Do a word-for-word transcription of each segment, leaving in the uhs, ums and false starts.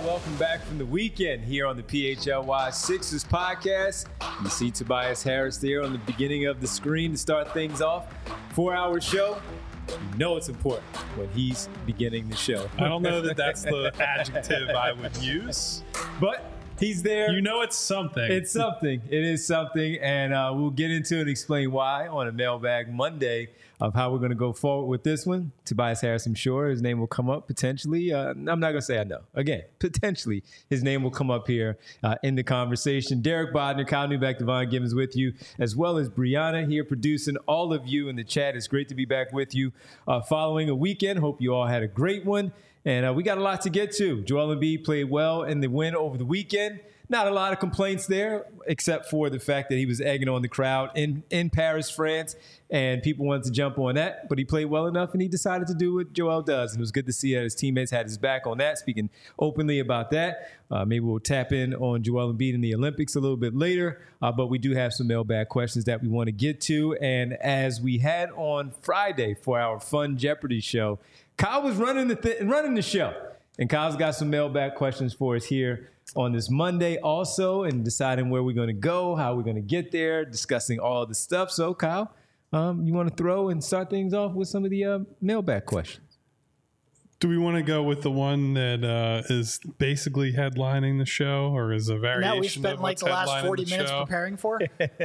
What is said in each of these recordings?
Welcome back from the weekend here on the P H L Y Sixers podcast. You see Tobias Harris there on the beginning of the screen to start things off. Four-hour show. You know it's important when he's beginning the show. I don't know that that's the adjective I would use, but he's there. You know it's something. It's something. It is something, and uh, we'll get into it and explain why on a Mailbag Monday of how we're going to go forward with this one. Tobias Harris, I'm sure his name will come up potentially. Uh, I'm not going to say I know. Again, potentially his name will come up here uh, in the conversation. Derek Bodner, Kyle Newbeck, Devon Gibbons with you, as well as Brianna here producing all of you in the chat. It's great to be back with you uh, following a weekend. Hope you all had a great one. And uh, we got a lot to get to. Joel Embiid played well in the win over the weekend. Not a lot of complaints there, except for the fact that he was egging on the crowd in, in Paris, France, and people wanted to jump on that. But he played well enough, and he decided to do what Joel does. And it was good to see that his teammates had his back on that, speaking openly about that. Uh, maybe we'll tap in on Joel Embiid in the Olympics a little bit later. Uh, but we do have some mailbag questions that we want to get to. And as we had on Friday for our Fun Jeopardy show, Kyle was running the th- running the show. And Kyle's got some mailbag questions for us here on this Monday also, and deciding where we're going to go, how we're going to get there, discussing all the stuff. So, Kyle, um, you want to throw and start things off with some of the uh, mailbag questions? Do we want to go with the one that uh, is basically headlining the show, or is a variation that we spent of like what's the last forty the minutes show? preparing for?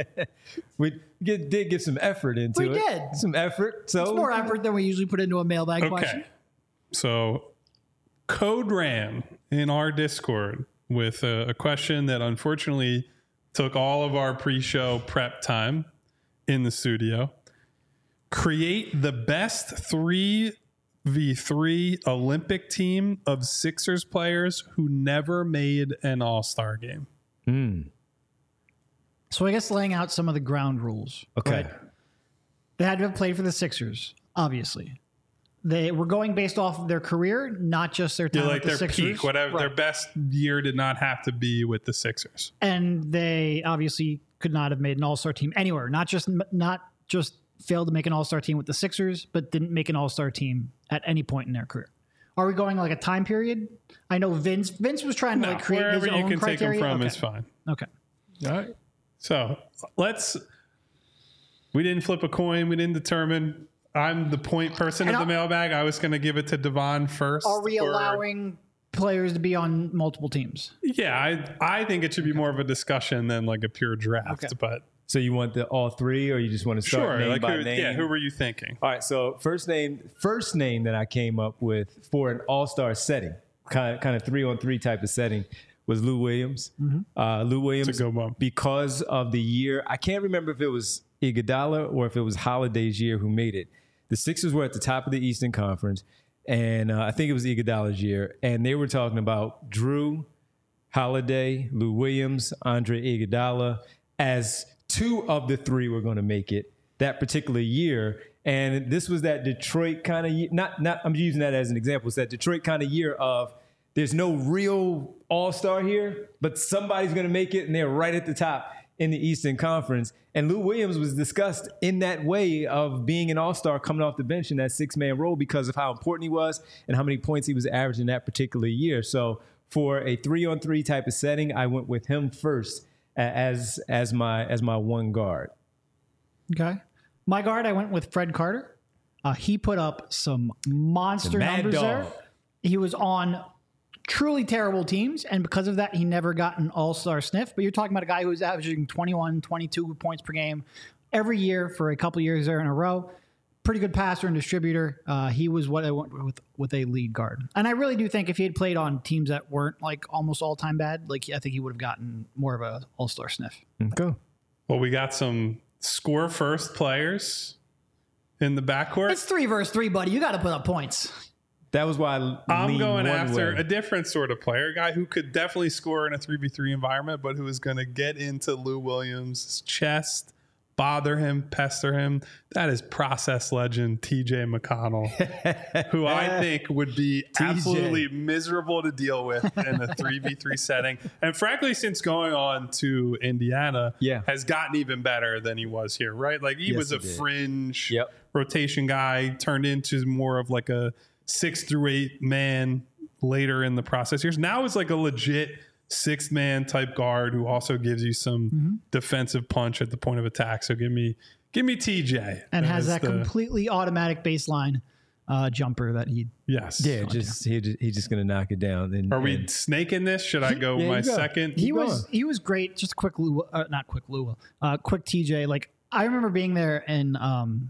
We get, did give some effort into We it. We did. Some effort. So it's more effort than we usually put into a mailbag okay. question. So, Code ran in our Discord with a, a question that unfortunately took all of our pre-show prep time in the studio. Create the best three v three Olympic team of Sixers players who never made an All-Star game. Mm. So I guess laying out some of the ground rules. Okay. Right? They had to have played for the Sixers, obviously. They were going based off of their career, not just their time Yeah, like with the their Sixers. peak, whatever. Right. Their best year did not have to be with the Sixers. And they obviously could not have made an all-star team anywhere. Not just not just failed to make an all-star team with the Sixers, but didn't make an all-star team at any point in their career. Are we going like a time period? I know Vince Vince was trying to No, like create his wherever own you can criteria. take them from okay. is fine. Okay. All right. So let's. We didn't flip a coin. We didn't determine. I'm the point person And of the I'll- mailbag. I was going to give it to Devon first. Are we or- allowing players to be on multiple teams? Yeah, I I think it should be more of a discussion than like a pure draft. Okay. But So you want the all three, or you just want to start sure, name like by who, name? yeah, who were you thinking? All right, so first name, first name that I came up with for an all-star setting, kind of, kind of three-on-three type of setting, was Lou Williams. Mm-hmm. Uh, Lou Williams, It's a good one. because of the year. I can't remember if it was Iguodala or if it was Holiday's year who made it. The Sixers were at the top of the Eastern Conference, and uh, I think it was Iguodala's year, and they were talking about Drew Holiday, Lou Williams, Andre Iguodala as two of the three were going to make it that particular year. And this was that Detroit kind of year. Not, not, I'm using that as an example. It's that Detroit kind of year of there's no real all-star here, but somebody's going to make it, and they're right at the top in the Eastern Conference. And Lou Williams was discussed in that way of being an all-star coming off the bench in that six-man role because of how important he was and how many points he was averaging that particular year. So for a three-on-three type of setting, I went with him first as as my as my one guard. Okay. My guard, I went with Fred Carter. Uh, he put up some monster The mad numbers dog. there. He was on truly terrible teams, and because of that, he never got an all-star sniff. But you're talking about a guy who was averaging twenty-one, twenty-two points per game every year for a couple years there in a row. Pretty good passer and distributor. Uh, he was what I went with with a lead guard. And I really do think if he had played on teams that weren't like almost all-time bad, like I think he would have gotten more of a all-star sniff. Okay. Well, we got some score first players in the backcourt. It's three versus three, buddy. You got to put up points. That was why I I'm leaned going one after way. a different sort of player, a guy who could definitely score in a three v three environment, but who is going to get into Lou Williams' chest, bother him, pester him. That is process legend T J McConnell, who I think would be absolutely miserable to deal with in a three v three setting. And frankly, since going on to Indiana, Yeah. has gotten even better than he was here, right? Like he Yes, was a he did. fringe Yep. rotation guy, turned into more of like a six through eight man later in the process years. Now is like a legit sixth man type guard who also gives you some mm-hmm. defensive punch at the point of attack. So give me give me T J. And has that the, completely automatic baseline uh, jumper that he yes yeah just he just, he's just gonna knock it down. And, are we and, snaking this? Should I go yeah, my go. second? He was he was great. Just quick Lua, uh, not quick Lua, uh, quick T J. Like I remember being there in um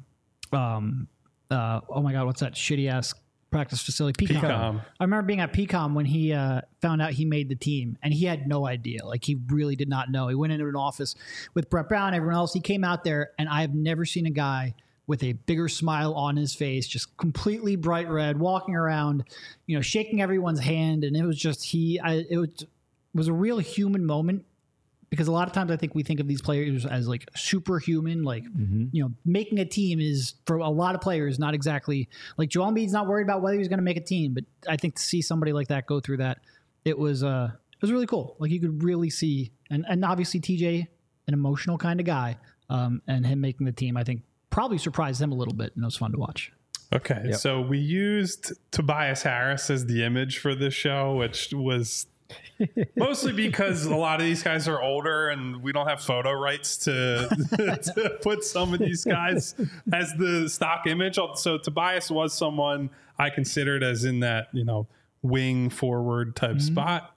um uh oh my god what's that shitty ass practice facility, P COM. P COM. I remember being at P COM when he uh, found out he made the team, and he had no idea. Like, he really did not know. He went into an office with Brett Brown, everyone else. He came out there, and I have never seen a guy with a bigger smile on his face, just completely bright red, walking around, you know, shaking everyone's hand. And it was just, he, I, it was, was a real human moment. Because a lot of times I think we think of these players as like superhuman, like, mm-hmm. you know, making a team is for a lot of players not exactly like Joel Embiid's not worried about whether he's going to make a team. But I think to see somebody like that go through that, it was uh, it was really cool. Like you could really see, and, and obviously T J, an emotional kind of guy, um, and him making the team, I think probably surprised him a little bit, and it was fun to watch. Okay, yep. So we used Tobias Harris as the image for this show, which was mostly because a lot of these guys are older and we don't have photo rights to, to put some of these guys as the stock image. So Tobias was someone I considered as in that, you know, wing forward type mm-hmm. spot.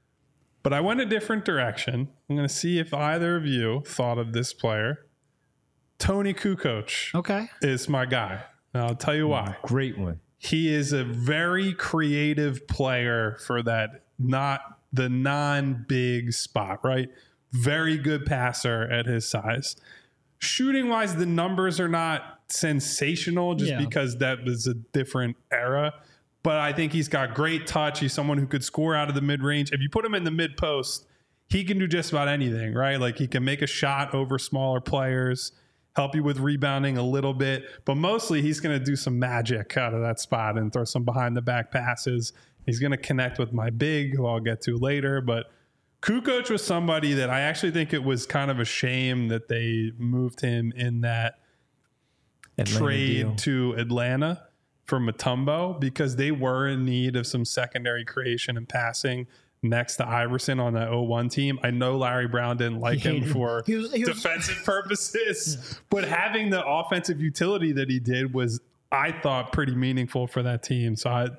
But I went a different direction. I'm going to see if either of you thought of this player. Tony Kukoc okay. is my guy. And I'll tell you why. Great one. He is a very creative player for that not the non-big spot, right? Very good passer at his size. Shooting-wise, the numbers are not sensational just yeah. because that was a different era. But I think he's got great touch. He's someone who could score out of the mid-range. If you put him in the mid-post, he can do just about anything, right? Like he can make a shot over smaller players, help you with rebounding a little bit. But mostly he's going to do some magic out of that spot and throw some behind-the-back passes. He's going to connect with my big, who I'll get to later. But Kukoc was somebody that I actually think it was kind of a shame that they moved him in that Atlanta trade deal. to Atlanta for Mutombo, because they were in need of some secondary creation and passing next to Iverson on that oh one team. I know Larry Brown didn't like him for he was, he was, defensive purposes, yeah. but having the offensive utility that he did was, I thought, pretty meaningful for that team. So I...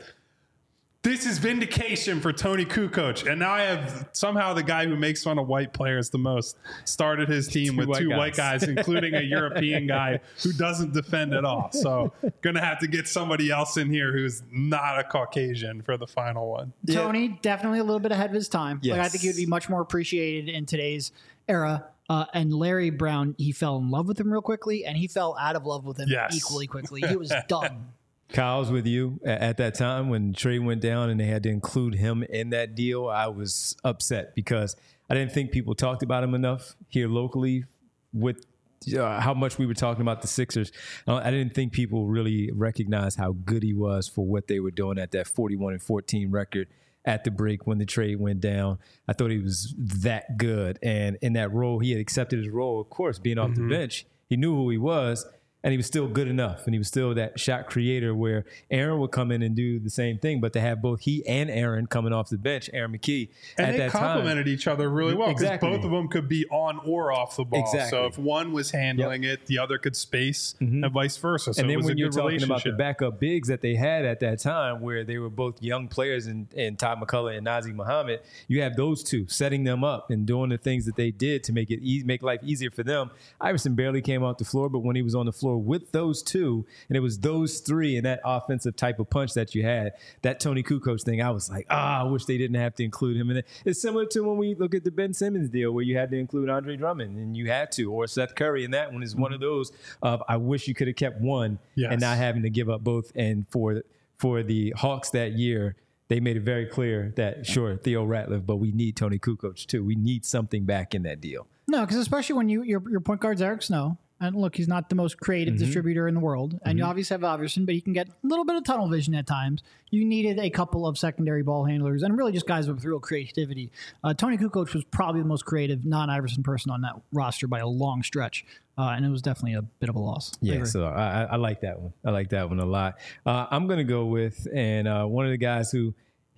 This is vindication for Tony Kukoc. And now I have somehow the guy who makes fun of white players the most started his team two with white two guys. white guys, including a European guy who doesn't defend at all. So going to have to get somebody else in here who's not a Caucasian for the final one. Tony, yeah. definitely a little bit ahead of his time. Yes. Like, I think he would be much more appreciated in today's era. Uh, and Larry Brown, he fell in love with him real quickly, and he fell out of love with him yes. equally quickly. He was done. Kyle's with you at that time when trade went down and they had to include him in that deal. I was upset because I didn't think people talked about him enough here locally with uh, how much we were talking about the Sixers. I didn't think people really recognized how good he was for what they were doing at that forty-one and fourteen record at the break when the trade went down. I thought he was that good. And in that role, he had accepted his role, of course, being off mm-hmm. the bench. He knew who he was. And he was still good enough, and he was still that shot creator where Aaron would come in and do the same thing, but to have both he and Aaron coming off the bench, Aaron McKee, and at they that complemented time, each other really well because exactly. both of them could be on or off the ball. Exactly. So if one was handling yep. it, the other could space, mm-hmm. and vice versa. So and then it was when a you're good talking about the backup bigs that they had at that time, where they were both young players, and, and Todd McCullough and Nazr Muhammad, you have those two setting them up and doing the things that they did to make it easy, make life easier for them. Iverson barely came off the floor, but when he was on the floor with those two. Two, and it was those three and that offensive type of punch that you had, that Tony Kukoc thing, I was like, ah, I wish they didn't have to include him in it. It's similar to when we look at the Ben Simmons deal where you had to include Andre Drummond, and you had to, or Seth Curry, and that one is one of those of I wish you could have kept one yes. and not having to give up both. And for for the Hawks that year, they made it very clear that, sure, Theo Ratliff, but we need Tony Kukoc too. We need something back in that deal. No, because especially when you your, your point guard's Eric Snow. And look, he's not the most creative mm-hmm. distributor in the world. And mm-hmm. you obviously have Iverson, but he can get a little bit of tunnel vision at times. You needed a couple of secondary ball handlers and really just guys with real creativity. Uh, Tony Kukoc was probably the most creative non-Iverson person on that roster by a long stretch. Uh, and it was definitely a bit of a loss. Yeah, so I, I like that one. I like that one a lot. Uh, I'm going to go with, and uh, one of the guys who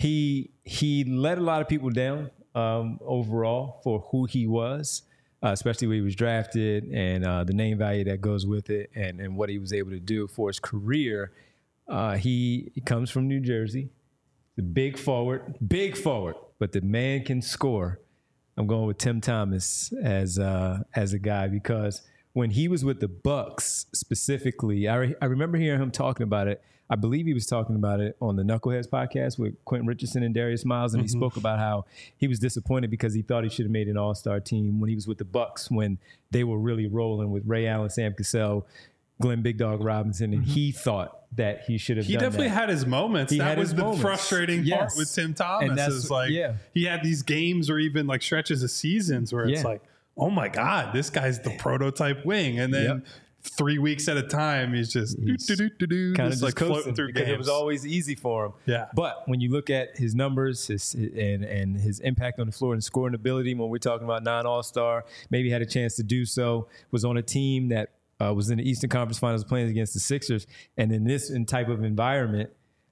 he he let a lot of people down um, overall for who he was, uh, especially when he was drafted and uh, the name value that goes with it, and, and what he was able to do for his career. Uh, he, he comes from New Jersey, the big forward, big forward, but the man can score. I'm going with Tim Thomas as uh, as a guy because when he was with the Bucks specifically, I, re- I remember hearing him talking about it. I believe he was talking about it on the Knuckleheads podcast with Quentin Richardson and Darius Miles, and mm-hmm. he spoke about how he was disappointed because he thought he should have made an all-star team when he was with the Bucks when they were really rolling with Ray Allen, Sam Cassell, Glenn Big Dog Robinson, and mm-hmm. he thought that he should have he done definitely that. had his moments. He that was the moments. frustrating yes. part with Tim Thomas. Is like yeah. he had these games or even like stretches of seasons where it's yeah. like, oh my God, this guy's the prototype wing. And then yep. three weeks at a time, he's just he's do, do, do, do, kind just of like just floating through because games. it was always easy for him. Yeah. But when you look at his numbers his, and, and his impact on the floor and scoring ability, when we're talking about non-all-star, maybe had a chance to do so, was on a team that uh, was in the Eastern Conference Finals playing against the Sixers. And in this in type of environment,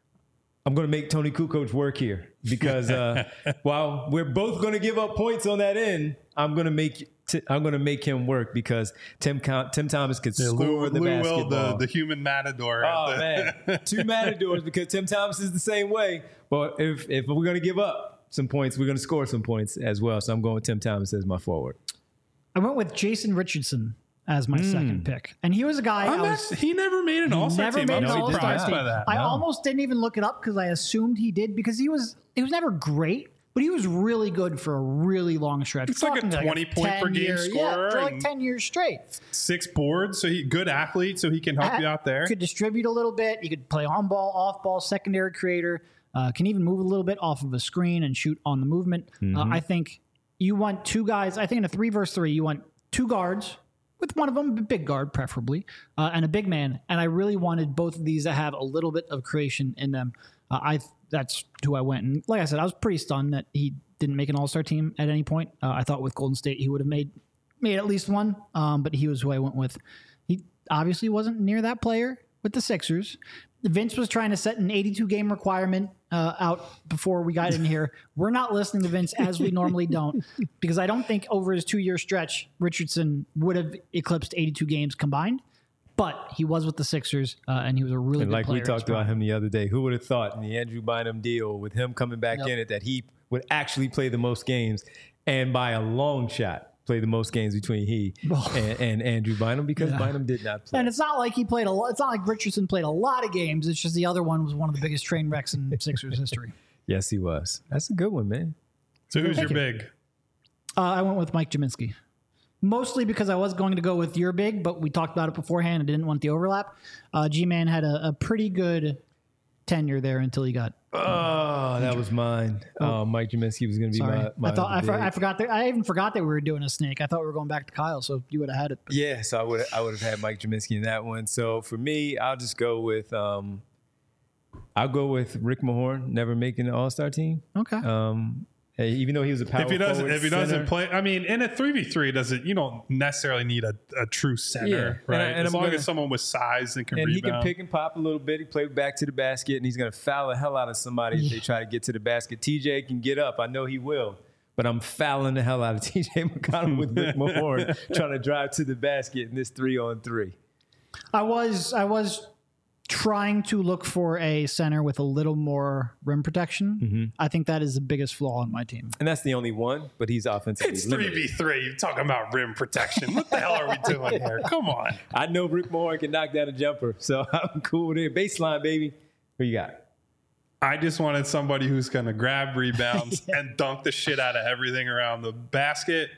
I'm going to make Tony Kukoc work here because uh, while we're both going to give up points on that end, I'm going to make t- I'm going to make him work because Tim Tim Thomas could yeah, score Lou, the Lou basketball. Will, the, the human matador. Oh the- man, two matadors because Tim Thomas is the same way. But if if we're going to give up some points, we're going to score some points as well. So I'm going with Tim Thomas as my forward. I went with Jason Richardson as my mm. second pick. And he was a guy I was, he never made an all-star never team. made I'm an all-star surprised team. by that. I No. almost didn't even look it up because I assumed he did because he was he was never great, but he was really good for a really long stretch. It's like a twenty point per game year, scorer. Yeah, for like and ten years straight. Six boards, so he good athlete, so he can help At, you out there. Could distribute a little bit. He could play on ball, off ball, secondary creator. Uh, can even move a little bit off of a screen and shoot on the movement. Mm-hmm. Uh, I think you want two guys. I think in a three versus three, you want two guards. With one of them, a big guard preferably, uh, and a big man. And I really wanted both of these to have a little bit of creation in them. Uh, I That's who I went. And like I said, I was pretty stunned that he didn't make an all-star team at any point. Uh, I thought with Golden State he would have made made at least one, um, but he was who I went with. He obviously wasn't near that player with the Sixers. Vince was trying to set an eighty-two game requirement uh, out before we got in here. We're not listening to Vince as we normally don't, because I don't think over his two-year stretch, Richardson would have eclipsed eighty-two games combined. But he was with the Sixers, uh, and he was a really and good like player. we talked about him the other day. Who would have thought in the Andrew Bynum deal with him coming back Yep. in it that he would actually play the most games and by a long shot play the most games between he and, and Andrew Bynum because Yeah. Bynum did not play. And it's not like he played a lot. It's not like Richardson played a lot of games. It's just the other one was one of the biggest train wrecks in Sixers history. Yes, he was. That's a good one, man. So who's Thank your you. big? Uh, I went with Mike Jaminski. Mostly because I was going to go with your big, but we talked about it beforehand and didn't want the overlap. Uh, G-Man had a, a pretty good tenure there until he got. Oh, that was mine. Oh, Mike Jaminski was going to be Sorry, my, my I thought I, for, big. I forgot that I even forgot that we were doing a snake. I thought we were going back to Kyle, so you would have had it. But Yeah, so I would I would have had Mike Jaminski in that one. So for me, I'll just go with um, I'll go with Rick Mahorn, never making the All Star team. Okay. Um, even though he was a power If he doesn't, forward, if he center. doesn't play, I mean, in a three v three, doesn't you don't necessarily need a, a true center, Yeah, and right? I- and as I'm long gonna- as someone with size and can and he rebound. can pick and pop a little bit. He played back to the basket, and he's going to foul the hell out of somebody if they try to get to the basket. T J can get up. I know he will. But I'm fouling the hell out of T J McConnell with Rick Mahorn trying to drive to the basket in this three on three. I was I was trying to look for a center with a little more rim protection. Mm-hmm. I think that is the biggest flaw in my team. And that's the only one, but he's offensively It's three limited. v three. You're talking about rim protection. What the hell are we doing here? Come on. I know Rick Mahorn can knock down a jumper, so I'm cool with it. Baseline, baby. Who you got? I just wanted somebody who's going to grab rebounds and dunk the shit out of everything around the basket.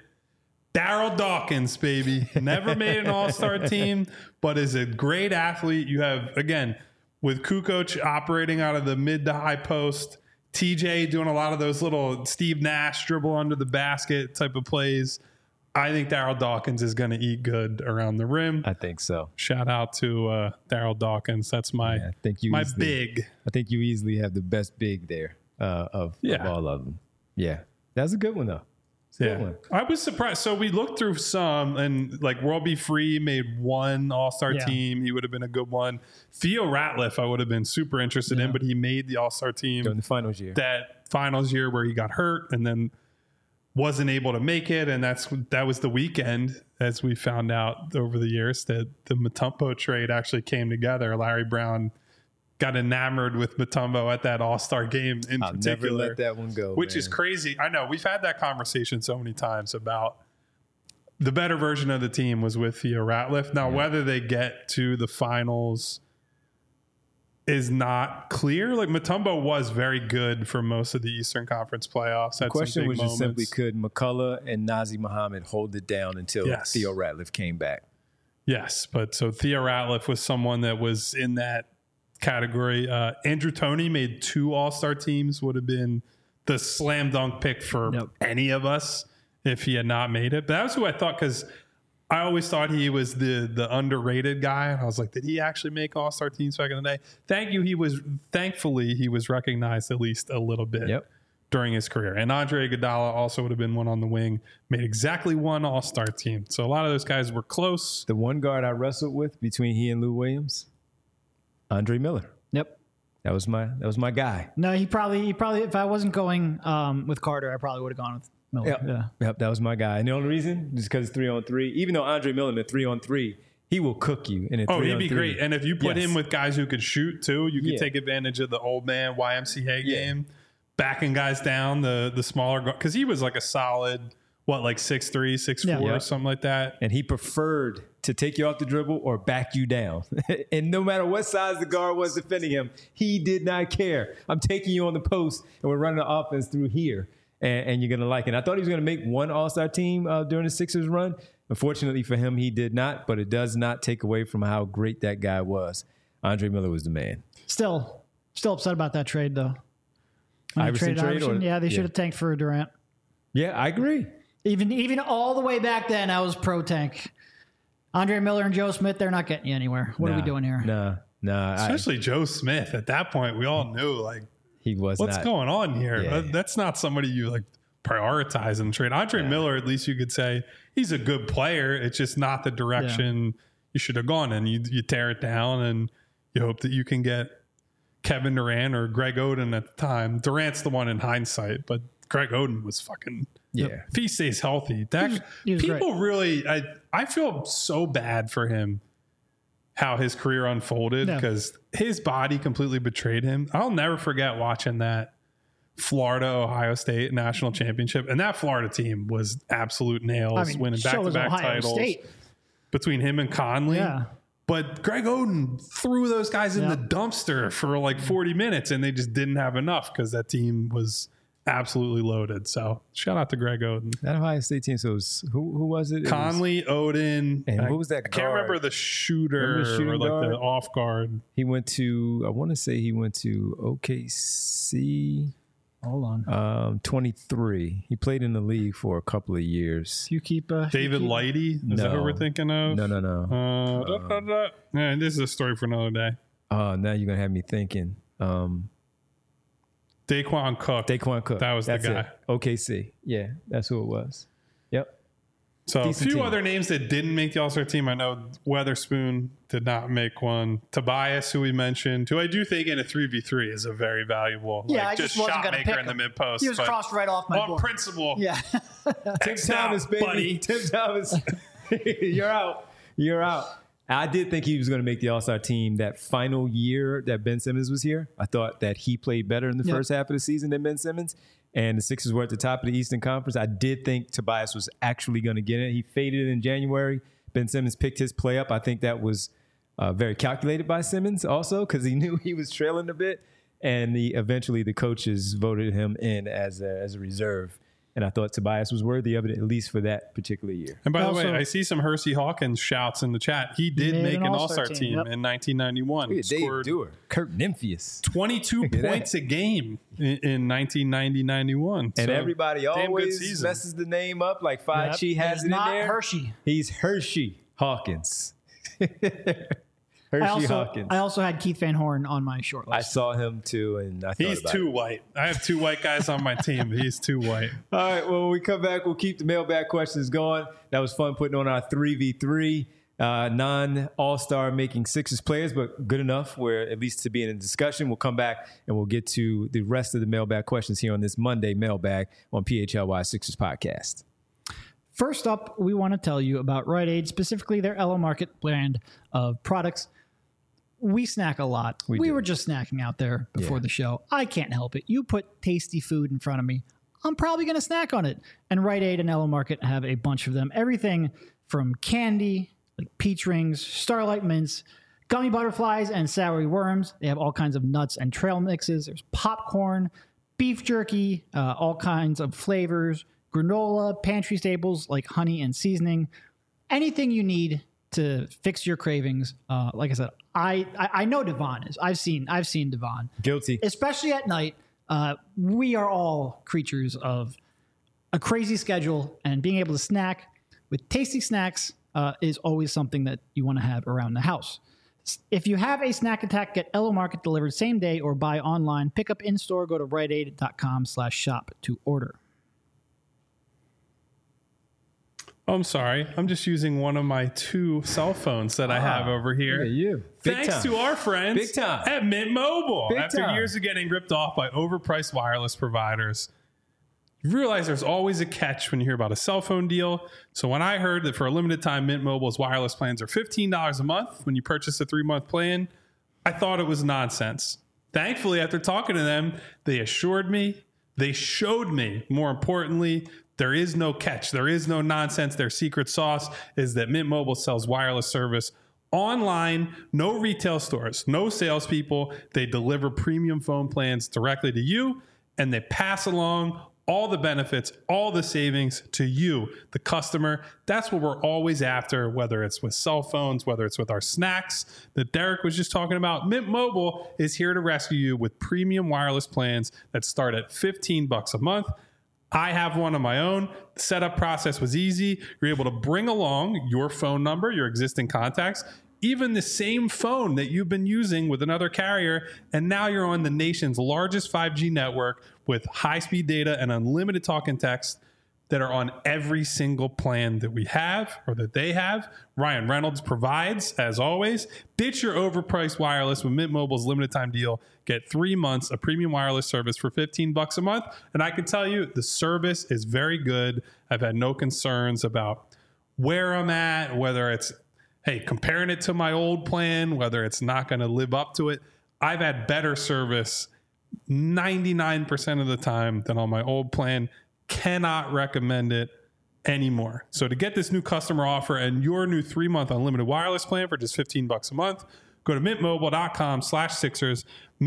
Daryl Dawkins, baby. Never made an all-star team, but is a great athlete. You have, again, with Kukoc operating out of the mid to high post, T J doing a lot of those little Steve Nash dribble under the basket type of plays. I think Daryl Dawkins is going to eat good around the rim. I think so. Shout out to uh, Daryl Dawkins. That's my Yeah, I think you my easily, big. I think you easily have the best big there uh, of, Yeah. of all of them. Yeah, that's a good one though. It's a Yeah, good one. I was surprised. So we looked through some, and like World Be Free made one All Star Yeah. team. He would have been a good one. Theo Ratliff, I would have been super interested in, Yeah. but he made the All Star team During the finals year. that finals year where he got hurt and then wasn't able to make it. And that's that was the weekend, as we found out over the years, that the Mutombo trade actually came together. Larry Brown got enamored with Mutombo at that All Star game in I'll particular. never let that one go. Which man. is crazy. I know we've had that conversation so many times about the better version of the team was with Theo Ratliff. Now, Yeah. whether they get to the finals is not clear. Like Mutombo was very good for most of the Eastern Conference playoffs. The Had question some big was just simply, moments. could McCullough and Nazi Muhammad hold it down until Yes. Theo Ratliff came back? Yes, but so Theo Ratliff was someone that was in that category. Uh, Andrew Toney made two All Star teams. Would have been the slam dunk pick for Yep. any of us if he had not made it. But that was who I thought, because I always thought he was the the underrated guy. And I was like, did he actually make All Star teams back in the day? Thank you. He was thankfully he was recognized at least a little bit. Yep. During his career. And Andre Iguodala also would have been one on the wing, made exactly one All-Star team. So a lot of those guys were close. The one guard I wrestled with between he and Lou Williams, Andre Miller. Yep. That was my that was my guy. No, he probably he probably if I wasn't going um, with Carter, I probably would have gone with Miller. Yep. Yeah. Yep, that was my guy. And the only reason is because it's three on three. Even though Andre Miller in a three on three, he will cook you in a Oh, three he'd on be three. great. And if you put Yes. him with guys who could shoot too, you could Yeah. take advantage of the old man Y M C A Yeah. game, backing guys down, the the smaller guard. Because he was like a solid, what, like six three, six four, Yeah. or something like that. And he preferred to take you off the dribble or back you down. And no matter what size the guard was defending him, he did not care. I'm taking you on the post, and we're running the offense through here, and, and you're going to like it. And I thought he was going to make one All-Star team uh, during the Sixers run. Unfortunately for him, he did not, but it does not take away from how great that guy was. Andre Miller was the man. Still, still upset about that trade though. When they Iverson traded trade Iverson, or- yeah, they yeah. should have tanked for Durant. Yeah, I agree. Even even all the way back then, I was pro tank. Andre Miller and Joe Smith, they're not getting you anywhere. What are we Nah, doing here? Nah, nah. I, Especially Joe Smith. At that point, we all knew, like, he was what's not. going on here? Yeah. That- That's not somebody you like prioritize in the trade. Andre Miller, at least you could say he's a good player. It's just not the direction you should have gone in. You you tear it down and you hope that you can get Kevin Durant or Greg Oden at the time. Durant's the one in hindsight, but Greg Oden was fucking. Yeah. If he stays healthy, that he was people really, I I feel so bad for him. How his career unfolded, Yeah. because his body completely betrayed him. I'll never forget watching that Florida Ohio State national championship, and that Florida team was absolute nails, I mean, winning so back to was back Ohio titles State. between him and Conley. Yeah. But Greg Oden threw those guys in Yeah. the dumpster for like forty minutes, and they just didn't have enough because that team was absolutely loaded. So shout out to Greg Oden. That Ohio State team. So it was, who who was it? It was- Conley, Odin, And I- who was that I can't guard? remember the shooter Remember the shooting or like guard? the off guard. he went to. I want to say he went to O K C. Hold on. Um, twenty-three. He played in the league for a couple of years. You keep uh, David you keep, Lighty, is that who No. we're thinking of? No, no, no. Uh, da, da, da. Yeah, this is a story for another day. Uh, now you're gonna have me thinking. Um, Daquan Cook. Daquan Cook. That was the That's guy. It. O K C. Yeah, that's who it was. Yep. So a Decent few team. other names that didn't make the All-Star team. I know Weatherspoon did not make one. Tobias, who we mentioned, who I do think in a three v three is a very valuable, Yeah, like, I just wasn't shot gonna maker pick in the him. mid post. He was crossed right off my on board. principle. Yeah. Tim X Thomas, out, baby. buddy. Tim Thomas. You're out. You're out. I did think he was going to make the All-Star team that final year that Ben Simmons was here. I thought that he played better in the Yep. first half of the season than Ben Simmons, and the Sixers were at the top of the Eastern Conference. I did think Tobias was actually going to get it. He faded in January. Ben Simmons picked his play up. I think that was uh, very calculated by Simmons also, because he knew he was trailing a bit, and the, eventually the coaches voted him in as a, as a reserve. And I thought Tobias was worthy of it, at least for that particular year. And by the Also- way, I see some Hersey Hawkins shouts in the chat. He did made make an an All-Star All-Star team, team, yep. in nineteen ninety-one. Look at Dave Scored Dewar, Kurt Nymphius. twenty-two at that. points a game in, in nineteen ninety ninety-one. And everybody damn good always season. messes the name up like Fachi Yep. has It's it in not there. Hershey. He's Hershey Hawkins. Hershey I also, Hawkins. I also had Keith Van Horn on my short list. I saw him too, and I thought He's about too it. white. I have two white guys on my team. He's too white. All right, well, when we come back, we'll keep the mailbag questions going. That was fun putting on our three v three. Uh, non-all-star making Sixers players, but good enough where at least to be in a discussion. We'll come back and we'll get to the rest of the mailbag questions here on this Monday mailbag on P H L Y Sixers podcast. First up, we want to tell you about Rite Aid, specifically their Ella Market brand of products. We snack a lot. We We, do. were just snacking out there before Yeah. the show. I can't help it. You put tasty food in front of me, I'm probably going to snack on it. And Rite Aid and Ella Market have a bunch of them. Everything from candy, like peach rings, starlight mints, gummy butterflies, and soury worms. They have all kinds of nuts and trail mixes. There's popcorn, beef jerky, uh, all kinds of flavors, granola, pantry staples like honey and seasoning. Anything you need to fix your cravings. Uh, like I said, I, I I know Devon is. I've seen I've seen Devon, Guilty. especially at night. Uh, we are all creatures of a crazy schedule, and being able to snack with tasty snacks uh, is always something that you want to have around the house. If you have a snack attack, get Ella Market delivered same day or buy online. Pick up in store. Go to riteaid.com slash shop to order. Oh, I'm sorry. I'm just using one of my two cell phones that I have over here. Look at you. Big Thanks time. to our friends Big time. at Mint Mobile. Big After time. years of getting ripped off by overpriced wireless providers, you realize there's always a catch when you hear about a cell phone deal. So when I heard that for a limited time, Mint Mobile's wireless plans are fifteen dollars a month when you purchase a three-month plan, I thought it was nonsense. Thankfully, after talking to them, they assured me, they showed me, more importantly, there is no catch. There is no nonsense. Their secret sauce is that Mint Mobile sells wireless service online, no retail stores, no salespeople. They deliver premium phone plans directly to you, and they pass along all the benefits, all the savings to you, the customer. That's what we're always after, whether it's with cell phones, whether it's with our snacks that Derek was just talking about. Mint Mobile is here to rescue you with premium wireless plans that start at fifteen bucks a month. I have one of my own. The setup process was easy. You're able to bring along your phone number, your existing contacts, even the same phone that you've been using with another carrier, and now you're on the nation's largest five G network with high-speed data and unlimited talk and text that are on every single plan that we have or that they have. Ryan Reynolds provides, as always. Ditch your overpriced wireless with Mint Mobile's limited time deal. Get three months of premium wireless service for fifteen bucks a month. And I can tell you the service is very good. I've had no concerns about where I'm at, whether it's, hey, comparing it to my old plan, whether it's not going to live up to it. I've had better service ninety-nine percent of the time than on my old plan. Cannot recommend it anymore. So to get this new customer offer and your new three-month unlimited wireless plan for just fifteen bucks a month, go to mintmobile.com slash Sixers,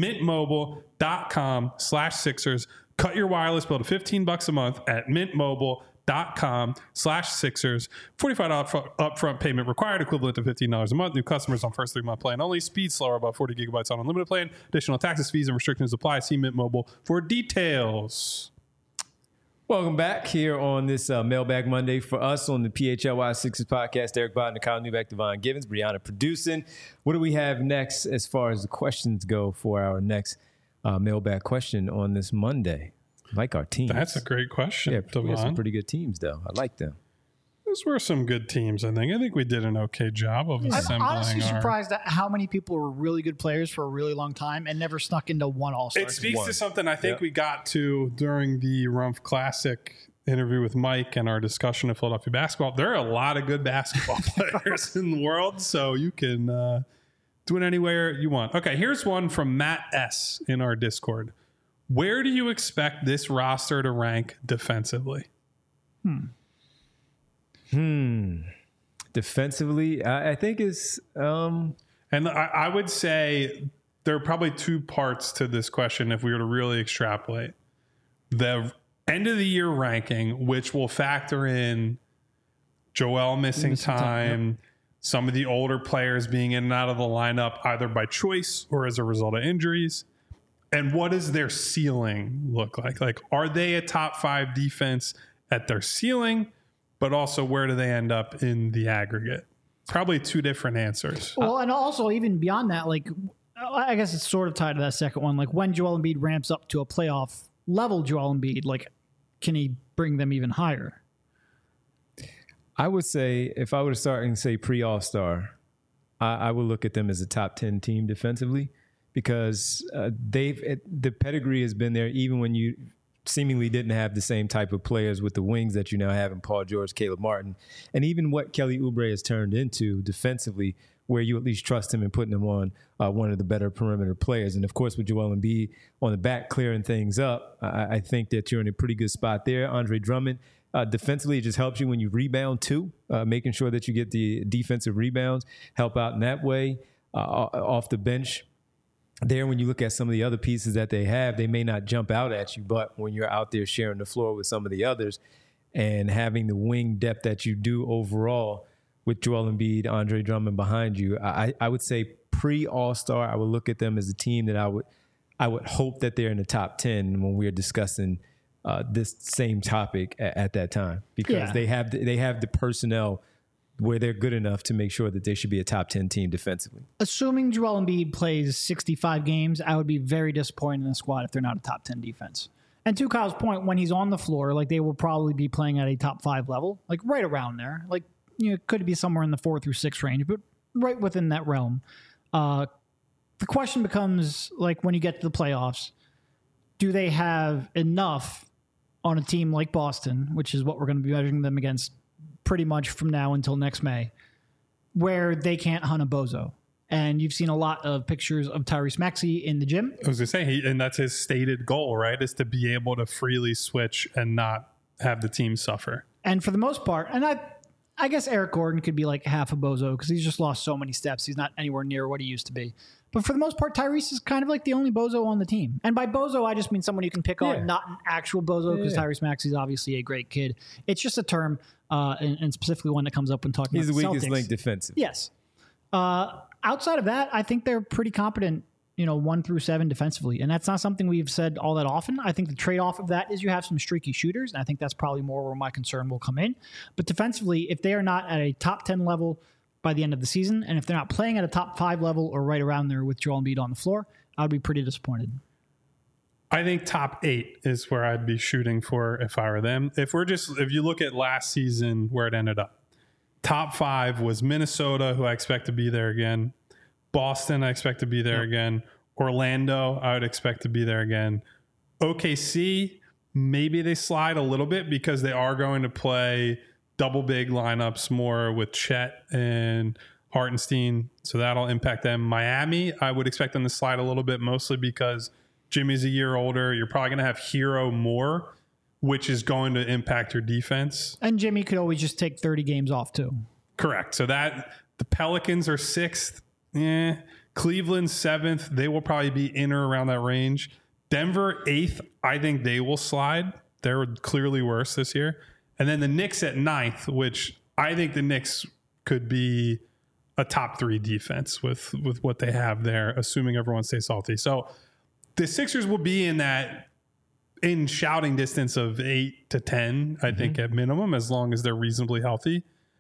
mintmobile.com slash Sixers. Cut your wireless bill to fifteen bucks a month at mintmobile.com slash Sixers. forty-five dollars upfront payment required, equivalent to fifteen dollars a month. New customers on first three-month plan only. Speed slower, about forty gigabytes on unlimited plan. Additional taxes, fees, and restrictions apply. See Mint Mobile for details. Welcome back here on this uh, Mailbag Monday for us on the P H L Y Sixers podcast. Derek Biden, Kyle Newbeck, Devon Givens, Brianna producing. What do we have next as far as the questions go for our next uh, mailbag question on this Monday? I like our teams. That's a great question, Yeah, we have some Devon. pretty good teams, though. I like them. Those were some good teams, I think. I think we did an okay job of I'm assembling honestly our... surprised at how many people were really good players for a really long time and never snuck into one All-Star. It speaks One. to something I think Yep. we got to during the Rumpf Classic interview with Mike and our discussion of Philadelphia basketball. There are a lot of good basketball players in the world, so you can uh, do it anywhere you want. Okay, here's one from Matt S. in our Discord. Where do you expect this roster to rank defensively? Hmm. Defensively, I, I think it's um, And I, I would say there are probably two parts to this question if we were to really extrapolate. The end of the year ranking, which will factor in Joel missing, Missing time, time, some of the older players being in and out of the lineup, either by choice or as a result of injuries. And what does their ceiling look like? Like, are they a top five defense at their ceiling? But also, where do they end up in the aggregate? probably two different answers. Well, and also even beyond that, like I guess it's sort of tied to that second one. Like when Joel Embiid ramps up to a playoff level, Joel Embiid, like can he bring them even higher? I would say if I were to start and say pre All-Star, I, I would look at them as a top ten team defensively because uh, they've it, the pedigree has been there even when you seemingly didn't have the same type of players with the wings that you now have in Paul George, Caleb Martin, and even what Kelly Oubre has turned into defensively, where you at least trust him in putting him on uh, one of the better perimeter players. And of course, with Joel Embiid on the back clearing things up, I, I think that you're in a pretty good spot there. Andre Drummond, uh, defensively, it just helps you when you rebound too, uh, making sure that you get the defensive rebounds, help out in that way uh, off the bench. There, when you look at some of the other pieces that they have, they may not jump out at you, but when you're out there sharing the floor with some of the others and having the wing depth that you do overall with Joel Embiid, Andre Drummond behind you, I, I would say pre-All-Star, I would look at them as a team that I would I would hope that they're in the top ten when we're discussing uh, this same topic at, at that time because Yeah. they have the, they have the personnel where they're good enough to make sure that they should be a top ten team defensively. Assuming Joel Embiid plays sixty-five games, I would be very disappointed in the squad if they're not a top ten defense. And to Kyle's point, when he's on the floor, like they will probably be playing at a top five level, like right around there. Like, you know, it could be somewhere in the four through six range, but right within that realm. Uh, the question becomes, like, when you get to the playoffs, do they have enough on a team like Boston, which is what we're going to be measuring them against pretty much from now until next May, where they can't hunt a bozo? And you've seen a lot of pictures of Tyrese Maxey in the gym. I was going to say, he, and that's his stated goal, right, is to be able to freely switch and not have the team suffer. And for the most part, and I I guess Eric Gordon could be like half a bozo because he's just lost so many steps. He's not anywhere near what he used to be. But for the most part, Tyrese is kind of like the only bozo on the team. And by bozo, I just mean someone you can pick Yeah. on, not an actual bozo, because Yeah. Tyrese Maxey is obviously a great kid. It's just a term, uh, and, and specifically one that comes up when talking He's the about the weakest Celtics. link defensive. Yes. Uh, outside of that, I think they're pretty competent, you know, one through seven defensively. And that's not something we've said all that often. I think the trade-off of that is you have some streaky shooters, and I think that's probably more where my concern will come in. But defensively, if they are not at a top ten level by the end of the season, and if they're not playing at a top five level or right around there with Joel Embiid on the floor, I'd be pretty disappointed. I think top eight is where I'd be shooting for if I were them. If we're just, if you look at last season where it ended up, top five was Minnesota, who I expect to be there again. Boston, I expect to be there Yep. again. Orlando, I would expect to be there again. O K C, maybe they slide a little bit because they are going to play double big lineups more with Chet and Hartenstein, so that'll impact them. Miami, I would expect them to slide a little bit, mostly because Jimmy's a year older. You're probably going to have Hero more, which is going to impact your defense. And Jimmy could always just take thirty games off too. Correct. So that the Pelicans are sixth. Yeah. Cleveland seventh. They will probably be in or around that range. Denver eighth. I think they will slide. They're clearly worse this year. And then the Knicks at ninth, which I think the Knicks could be a top three defense with, with what they have there, assuming everyone stays healthy. So the Sixers will be in that in shouting distance of eight to ten, I think at minimum, as long as they're reasonably healthy.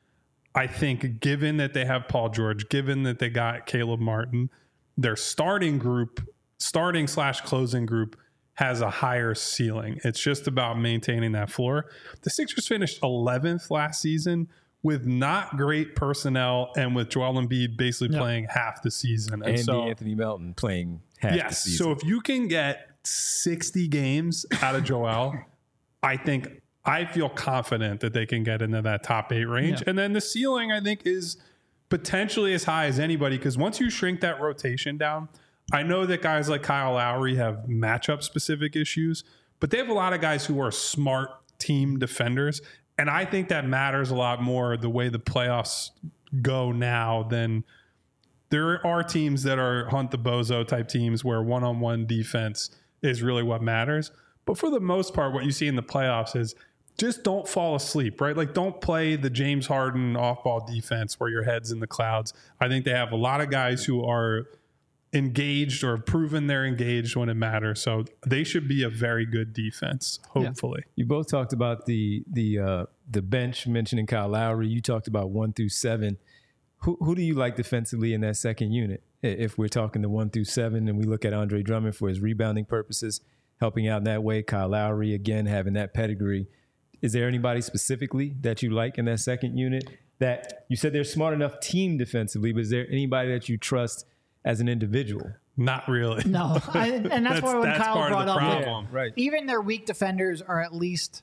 I think given that they have Paul George, given that they got Caleb Martin, their starting group, starting slash closing group has a higher ceiling. It's just about maintaining that floor. The Sixers finished eleventh last season with not great personnel and with Joel Embiid basically Yep. playing half the season. And And so, Anthony Melton playing half the yes, season. so if you can get sixty games out of Joel, I think I feel confident that they can get into that top eight range. Yeah. And then the ceiling, I think, is potentially as high as anybody, because once you shrink that rotation down, I know that guys like Kyle Lowry have matchup specific issues, but they have a lot of guys who are smart team defenders. And I think that matters a lot more the way the playoffs go now than there are teams that are hunt the bozo type teams where one-on-one defense is really what matters. But for the most part, what you see in the playoffs is just don't fall asleep, right? Like don't play the James Harden off-ball defense where your head's in the clouds. I think they have a lot of guys who are engaged or have proven they're engaged when it matters. So they should be a very good defense, hopefully. You both talked about the the uh, the bench, mentioning Kyle Lowry. You talked about one through seven. who who do you like defensively in that second unit? If we're talking the one through seven and we look at Andre Drummond for his rebounding purposes, helping out in that way, Kyle Lowry, again, having that pedigree. Is there anybody specifically that you like in that second unit that you said they're smart enough team defensively, but is there anybody that you trust as an individual? Not really. No. I, and that's, that's why when that's Kyle part brought of the up, problem. Yeah, right. even their weak defenders are at least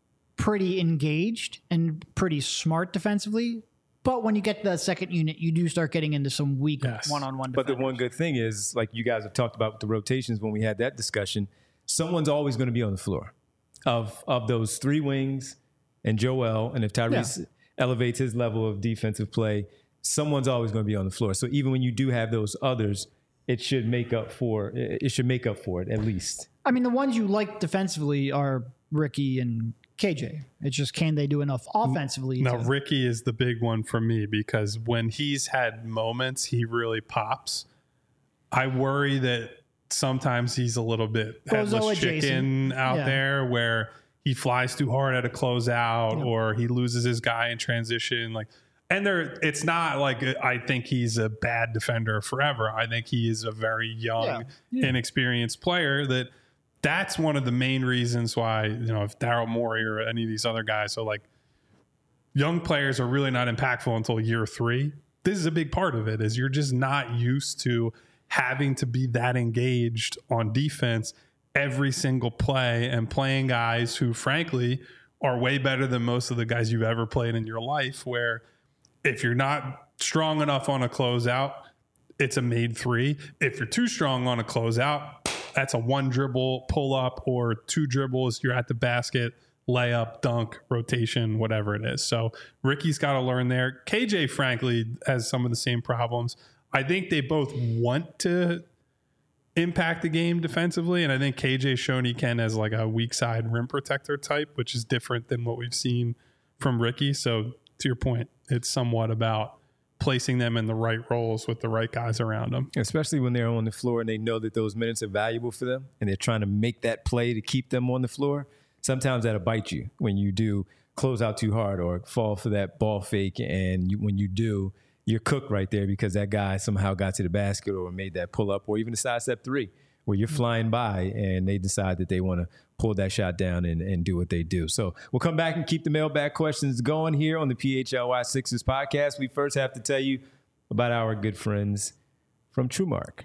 pretty engaged and pretty smart defensively. But when you get to the second unit, you do start getting into some weak Yes. one-on-one But defenders. the one good thing is, like you guys have talked about with the rotations when we had that discussion, someone's always going to be on the floor of of those three wings and Joel. And if Tyrese Yeah. elevates his level of defensive play, someone's always going to be on the floor. So even when you do have those others, it should make up for it should make up for it at least. I mean, the ones you like defensively are Ricky and K J. It's just, can they do enough offensively? Now, to, Ricky is the big one for me because when he's had moments, he really pops. I worry that sometimes he's a little bit Bozo headless adjacent. chicken out Yeah. there where he flies too hard at a closeout Yeah. or he loses his guy in transition. Like, and there, it's not like I think he's a bad defender forever. I think he is a very young, Yeah. Yeah. inexperienced player that that's one of the main reasons why, you know, if Daryl Morey or any of these other guys, so like young players are really not impactful until year three. This is a big part of it is you're just not used to having to be that engaged on defense every single play and playing guys who frankly are way better than most of the guys you've ever played in your life, where if you're not strong enough on a closeout, it's a made three. If you're too strong on a closeout, that's a one dribble pull up or two dribbles. You're at the basket, layup, dunk, rotation, whatever it is. So Ricky's got to learn there. K J, frankly, has some of the same problems. I think they both want to impact the game defensively. And I think K J shown he can as like a weak side rim protector type, which is different than what we've seen from Ricky. So to your point, it's somewhat about placing them in the right roles with the right guys around them. Especially when they're on the floor and they know that those minutes are valuable for them and they're trying to make that play to keep them on the floor. Sometimes that'll bite you when you do close out too hard or fall for that ball fake. And you, when you do, you're cooked right there because that guy somehow got to the basket or made that pull up or even a side step three where you're flying by and they decide that they want to pull that shot down and, and do what they do. So we'll come back and keep the mailbag questions going here on the P H L Y Sixers podcast. We first have to tell you about our good friends from TrueMark.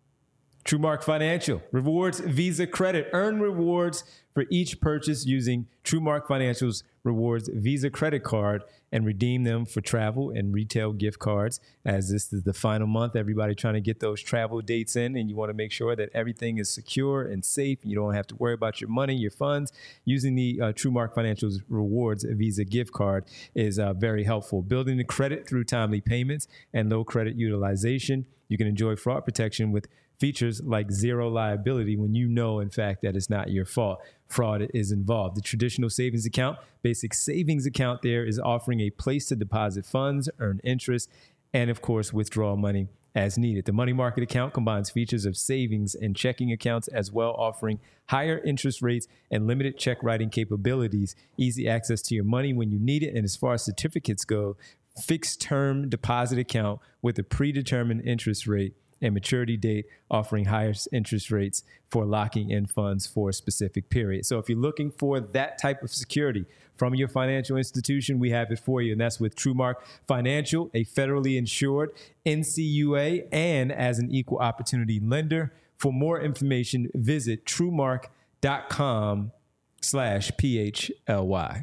TrueMark Financial rewards Visa credit. Earn rewards for each purchase using TrueMark Financial's rewards Visa credit card and redeem them for travel and retail gift cards. As this is the final month, everybody trying to get those travel dates in, and you want to make sure that everything is secure and safe. You don't have to worry about your money, your funds. Using the uh, TrueMark Financial's rewards Visa gift card is uh, very helpful. Building the credit through timely payments and low credit utilization. You can enjoy fraud protection with features like zero liability when you know, in fact, that it's not your fault. Fraud is involved. The traditional savings account, basic savings account there is offering a place to deposit funds, earn interest, and of course, withdraw money as needed. The money market account combines features of savings and checking accounts as well, offering higher interest rates and limited check writing capabilities, easy access to your money when you need it. And as far as certificates go, fixed term deposit account with a predetermined interest rate and maturity date, offering higher interest rates for locking in funds for a specific period. So if you're looking for that type of security from your financial institution, we have it for you. And that's with TrueMark Financial, a federally insured N C U A and as an equal opportunity lender. For more information, visit truemark.com slash PHLY.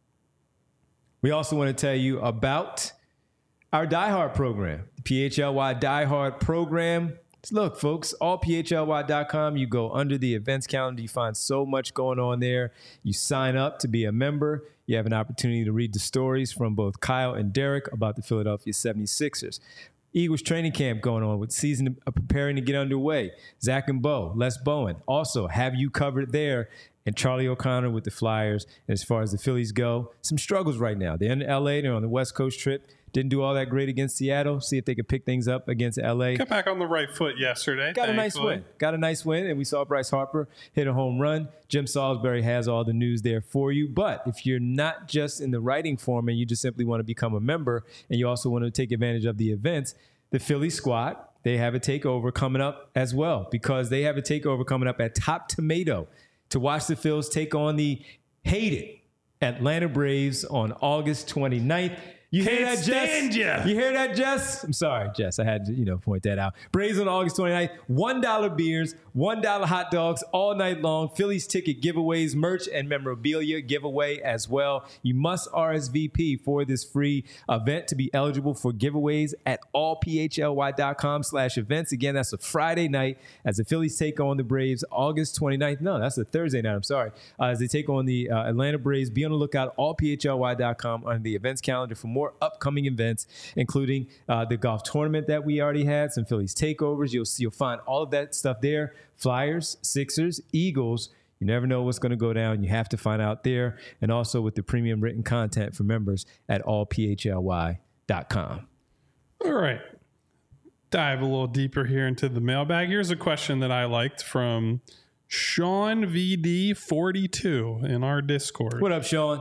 We also want to tell you about our Die Hard program, the P H L Y Die Hard program. Look, folks, all P H L Y dot com, you go under the events calendar, you find so much going on there. You sign up to be a member. You have an opportunity to read the stories from both Kyle and Derek about the Philadelphia seventy-sixers. Eagles training camp going on with season preparing to get underway. Zach and Bo, Les Bowen, also have you covered there. And Charlie O'Connor with the Flyers. And as far as the Phillies go, some struggles right now. They're in L A. They're on the West Coast trip. Didn't do all that great against Seattle. See if they could pick things up against L A. Got back on the right foot yesterday. Got a nice win. Got a nice win, and we saw Bryce Harper hit a home run. Jim Salisbury has all the news there for you. But if you're not just in the writing form and you just simply want to become a member and you also want to take advantage of the events, the Philly squad, they have a takeover coming up as well, because they have a takeover coming up at Top Tomato to watch the Phils take on the hated Atlanta Braves on August twenty-ninth. You hear Can't that, stand Jess? ya. You hear that, Jess? I'm sorry, Jess. I had to, you know, point that out. Braves on August twenty-ninth. one dollar beers, one dollar hot dogs all night long. Phillies ticket giveaways, merch, and memorabilia giveaway as well. You must R S V P for this free event to be eligible for giveaways at allphly.com slash events. Again, that's a Friday night as the Phillies take on the Braves August twenty-ninth. No, that's a Thursday night. I'm sorry. Uh, as they take on the uh, Atlanta Braves. Be on the lookout, all p h l y dot com on the events calendar for more upcoming events, including uh, the golf tournament that we already had, some Phillies takeovers. You'll see, you'll find all of that stuff there. Flyers, Sixers, Eagles. You never know what's going to go down. You have to find out there. And also with the premium written content for members at all p h l y dot com. All right. Dive a little deeper here into the mailbag. Here's a question that I liked from Sean V D forty-two in our Discord. What up, Sean?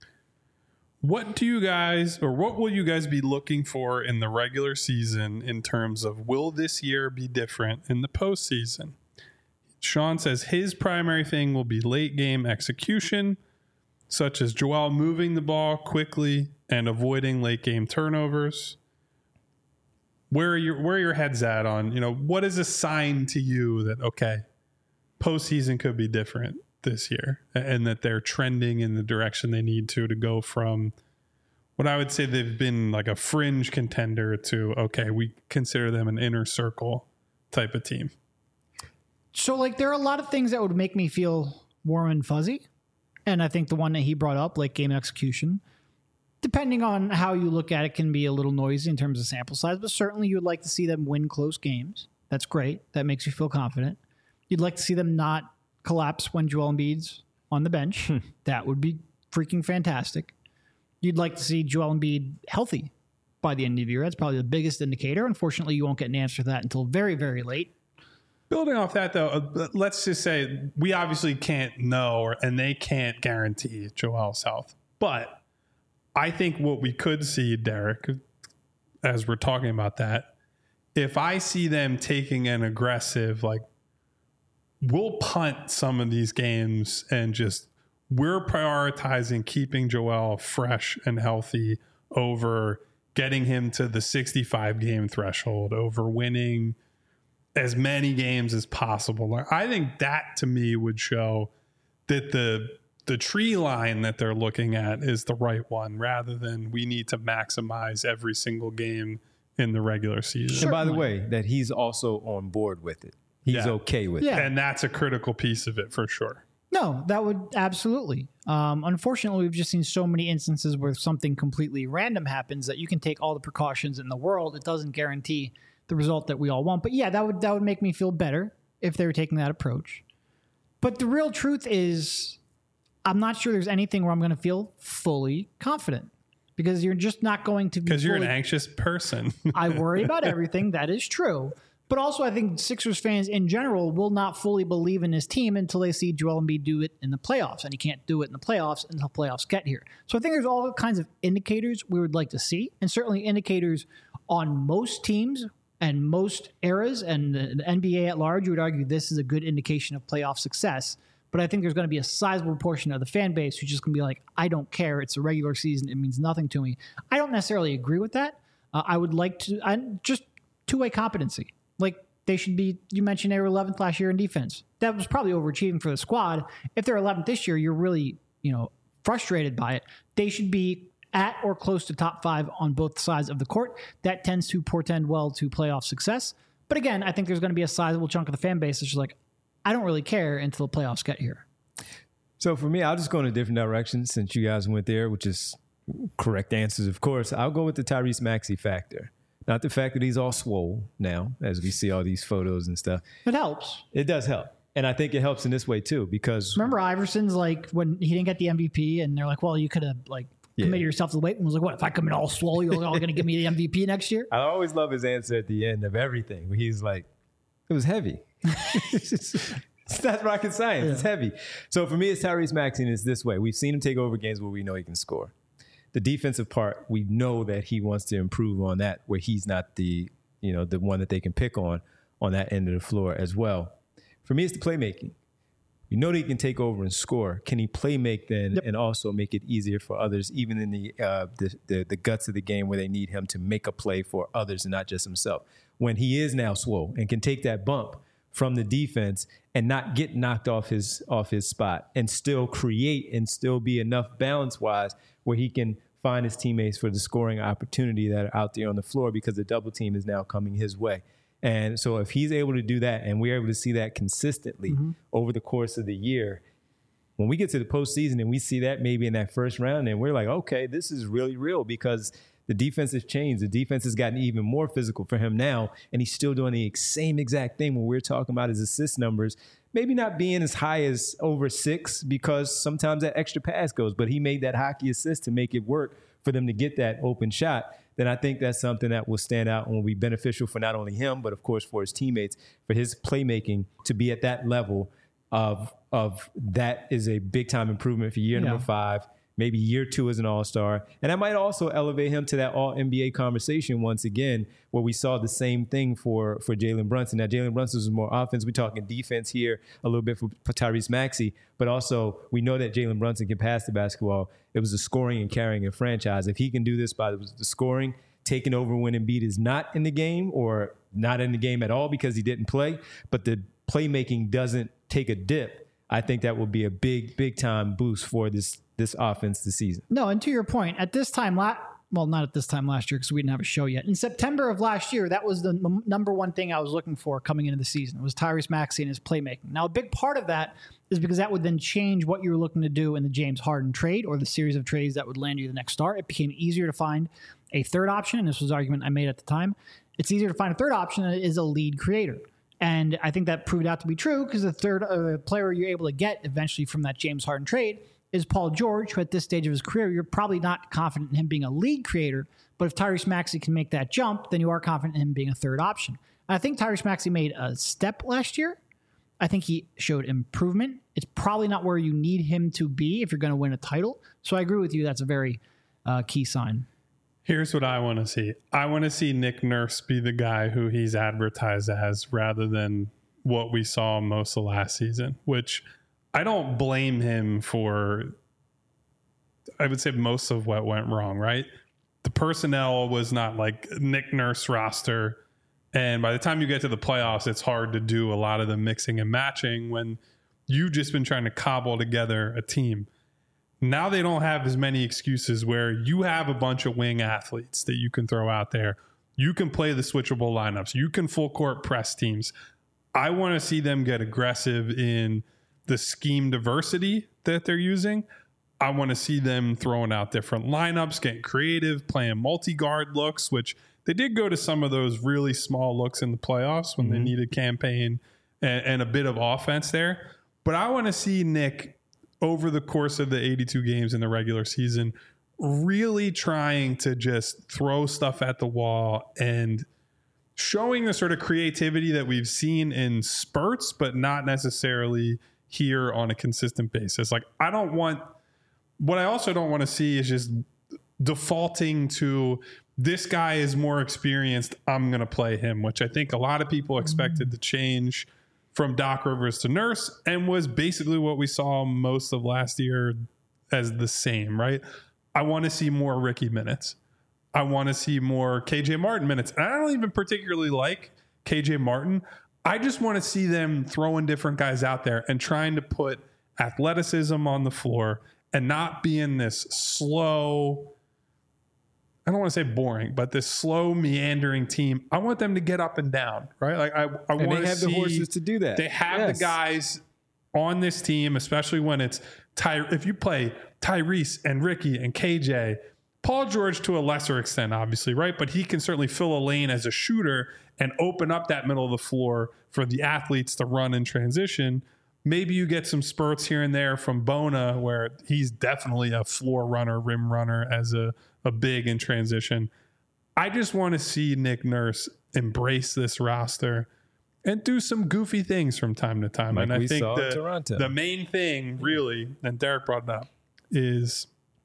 What do you guys, or what will you guys be looking for in the regular season in terms of will this year be different in the postseason? Sean says his primary thing will be late game execution, such as Joel moving the ball quickly and avoiding late game turnovers. Where are your where are your heads at on, you know, what is a sign to you that, okay, postseason could be different this year and that they're trending in the direction they need to to go from what I would say they've been like a fringe contender to, okay, we consider them an inner circle type of team? So, like, there are a lot of things that would make me feel warm and fuzzy. And I think the one that he brought up, like game execution, depending on how you look at it, can be a little noisy in terms of sample size. But certainly you would like to see them win close games. That's great. That makes you feel confident. You'd like to see them not collapse when Joel Embiid's on the bench. That would be freaking fantastic. You'd like to see Joel Embiid healthy by the end of the year. That's probably the biggest indicator. Unfortunately, you won't get an answer to that until very, very late. Building off that, though, uh, let's just say we obviously can't know, or, and they can't guarantee Joel's health. But I think what we could see, Derek, as we're talking about that, if I see them taking an aggressive, like, we'll punt some of these games and just we're prioritizing keeping Joel fresh and healthy over getting him to the sixty-five game threshold, over winning as many games as possible. I think that to me would show that the the tree line that they're looking at is the right one, rather than we need to maximize every single game in the regular season. And by the way, that he's also on board with it. He's Yeah. okay with Yeah. it. And that's a critical piece of it for sure. No, that would absolutely. Um, unfortunately, we've just seen so many instances where something completely random happens that you can take all the precautions in the world. It doesn't guarantee the result that we all want. But yeah, that would that would make me feel better if they were taking that approach. But the real truth is, I'm not sure there's anything where I'm going to feel fully confident, because you're just not going to be. Because you're an fully- anxious person. I worry about everything. That is true. But also, I think Sixers fans in general will not fully believe in his team until they see Joel Embiid do it in the playoffs. And he can't do it in the playoffs until playoffs get here. So I think there's all kinds of indicators we would like to see, and certainly indicators on most teams and most eras, and the, the N B A at large. You would argue this is a good indication of playoff success. But I think there's going to be a sizable portion of the fan base who's just going to be like, I don't care. It's a regular season. It means nothing to me. I don't necessarily agree with that. Uh, I would like to, I, just two-way competency. Like, they should be, you mentioned they were eleventh last year in defense. That was probably overachieving for the squad. If they're eleventh this year, you're really, you know, frustrated by it. They should be at or close to top five on both sides of the court. That tends to portend well to playoff success. But again, I think there's going to be a sizable chunk of the fan base that's just like, I don't really care until the playoffs get here. So for me, I'll just go in a different direction since you guys went there, which is correct answers, of course. I'll go with the Tyrese Maxey factor. Not the fact that he's all swole now, as we see all these photos and stuff. It helps. It does help. And I think it helps in this way, too, because... Remember Iverson's like, when he didn't get the M V P, and they're like, well, you could have, like, Yeah. committed yourself to the weight and was like, what, if I come in all swole, you're all going to give me the M V P next year? I always love his answer at the end of everything, where he's like, it was heavy. It's not rocket science. Yeah. It's heavy. So for me, it's Tyrese Maxey, and it's this way. We've seen him take over games where we know he can score. The defensive part, we know that he wants to improve on that, where he's not the, you know, the one that they can pick on on that end of the floor as well. For me, it's the playmaking. You know that he can take over and score. Can he play make then yep. and also make it easier for others, even in the, uh, the, the the guts of the game where they need him to make a play for others and not just himself? When he is now swole and can take that bump from the defense and not get knocked off his off his spot and still create and still be enough balance-wise where he can find his teammates for the scoring opportunity that are out there on the floor because the double team is now coming his way. And so if he's able to do that and we're able to see that consistently mm-hmm. over the course of the year, when we get to the postseason and we see that maybe in that first round, and we're like, okay, this is really real because the defense has changed. The defense has gotten even more physical for him now, and he's still doing the same exact thing when we're talking about his assist numbers, maybe not being as high as over six because sometimes that extra pass goes, but he made that hockey assist to make it work for them to get that open shot. Then I think that's something that will stand out and will be beneficial for not only him, but of course for his teammates, for his playmaking to be at that level of, of that is a big time improvement for year yeah. number five. Maybe year two as an all-star. And that might also elevate him to that all-N B A conversation once again, where we saw the same thing for, for Jalen Brunson. Now, Jalen Brunson was more offense. We're talking defense here a little bit for, for Tyrese Maxey. But also, we know that Jalen Brunson can pass the basketball. It was the scoring and carrying a franchise. If he can do this by the, the scoring, taking over when Embiid is not in the game or not in the game at all because he didn't play, but the playmaking doesn't take a dip, I think that will be a big, big-time boost for this this offense this season. No, and to your point, at this time, la- well, not at this time last year because we didn't have a show yet. In September of last year, that was the m- number one thing I was looking for coming into the season. It was Tyrese Maxey and his playmaking. Now, a big part of that is because that would then change what you were looking to do in the James Harden trade or the series of trades that would land you the next star. It became easier to find a third option, and this was an argument I made at the time. It's easier to find a third option than it is a lead creator. And I think that proved out to be true because the third uh, player you're able to get eventually from that James Harden trade is Paul George, who at this stage of his career, you're probably not confident in him being a lead creator, but if Tyrese Maxey can make that jump, then you are confident in him being a third option. And I think Tyrese Maxey made a step last year. I think he showed improvement. It's probably not where you need him to be if you're going to win a title. So I agree with you. That's a very uh, key sign. Here's what I want to see. I want to see Nick Nurse be the guy who he's advertised as rather than what we saw most of last season, which I don't blame him for, I would say most of what went wrong, right? The personnel was not like Nick Nurse roster. And by the time you get to the playoffs, it's hard to do a lot of the mixing and matching when you've just been trying to cobble together a team. Now they don't have as many excuses where you have a bunch of wing athletes that you can throw out there. You can play the switchable lineups. You can full court press teams. I want to see them get aggressive in the scheme diversity that they're using. I want to see them throwing out different lineups, getting creative, playing multi-guard looks, which they did go to some of those really small looks in the playoffs when mm-hmm. they needed campaign and, and a bit of offense there. But I want to see Nick over the course of the eighty-two games in the regular season really trying to just throw stuff at the wall and showing the sort of creativity that we've seen in spurts, but not necessarily here on a consistent basis. Like, I don't want, what I also don't want to see is just defaulting to this guy is more experienced, I'm going to play him, which I think a lot of people expected to change from Doc Rivers to Nurse and was basically what we saw most of last year as the same, right? I want to see more Ricky minutes. I want to see more K J Martin minutes. And I don't even particularly like K J Martin. I just want to see them throwing different guys out there and trying to put athleticism on the floor and not being this slow, I don't want to say boring, but this slow meandering team. I want them to get up and down, right? Like I, I and want they have to see, the horses to do that. They have yes. the guys on this team, especially when it's Ty. If you play Tyrese and Ricky and K J, Paul George to a lesser extent, obviously, right? But he can certainly fill a lane as a shooter and open up that middle of the floor for the athletes to run in transition. maybe you get some spurts here and there from Bona, where he's definitely a floor runner, rim runner as a, a big in transition. I just want to see Nick Nurse embrace this roster and do some goofy things from time to time. Like and I we think saw in the, Toronto. the main thing, really, and Derek brought it up, is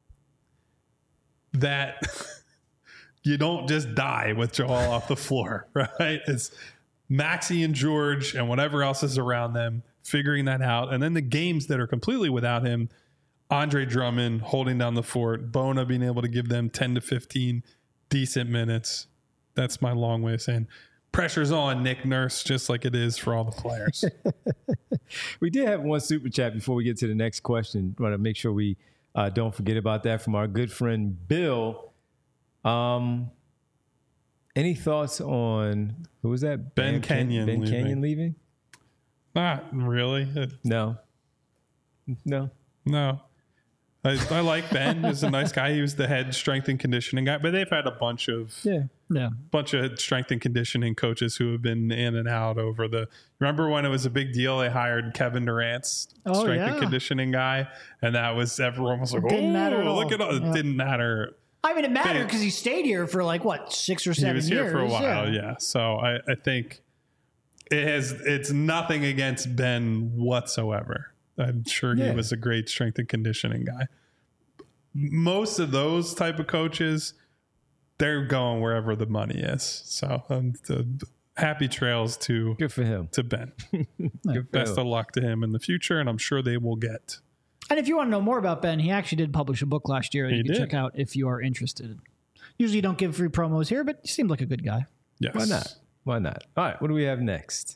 that you don't just die with Joel off the floor, right? It's Maxey and George and whatever else is around them figuring that out. And then the games that are completely without him, Andre Drummond holding down the fort, Bona being able to give them ten to fifteen decent minutes. That's my long way of saying pressure's on Nick Nurse, just like it is for all the players. We did have one super chat before we get to the next question. Want to make sure we uh, don't forget about that from our good friend Bill. Um, any thoughts on who was that? Ben Ken- Kenyon Ben leaving. Kenyon leaving? Not really. It- No, no. no. I, I like Ben. He's a nice guy. He was the head strength and conditioning guy, but they've had a bunch of Yeah, Yeah. bunch of strength and conditioning coaches who have been in and out over the. Remember when it was a big deal? They hired Kevin Durant's Oh, strength and yeah. conditioning guy, and that was everyone was like, Didn't "Oh, matter at look all." at all!" It Yeah. didn't matter. I mean, it mattered Big. because he stayed here for like what six or He seven was years. here for a while, yeah. So I, I think it has. It's nothing against Ben whatsoever. I'm sure he Yeah. was a great strength and conditioning guy. Most of those type of coaches, they're going wherever the money is. So um, the, happy trails to good for him. to Ben. Good for Best him. of luck to him in the future, and I'm sure they will get. And if you want to know more about Ben, he actually did publish a book last year that He you can did. check out if you are interested. Usually, you don't give free promos here, but he seemed like a good guy. Yes. Why not? Why not? All right, what do we have next?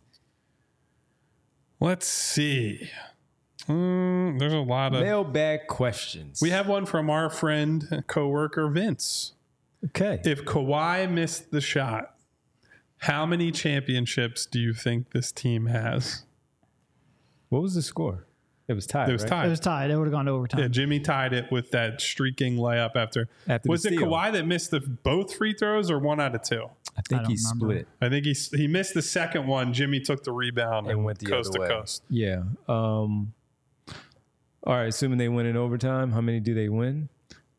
Let's see. Mm, there's a lot of. Mailbag questions. We have one from our friend, coworker Vince. okay. If Kawhi missed the shot, how many championships do you think this team has? What was the score? It was tied. It was right? tied. It was tied. It would have gone to overtime. Yeah, Jimmy tied it with that streaking layup after. After the was it steal. Kawhi that missed the both free throws or one out of two? I think I don't he remember. split I think he he missed the second one. Jimmy took the rebound and went the coast other to way. coast. Yeah. Um, all right. Assuming they win in overtime, how many do they win?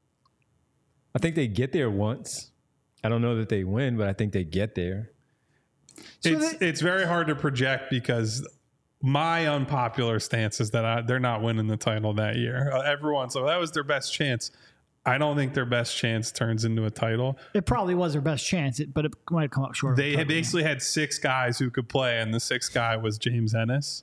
I think they get there once. I don't know that they win, but I think they get there. So it's they- it's very hard to project because my unpopular stance is that I, they're not winning the title that year. Uh, everyone, so that was their best chance. I don't think their best chance turns into a title. It probably was their best chance, it- but it might have come up short. of They a had title. basically had six guys who could play, and the sixth guy was James Ennis.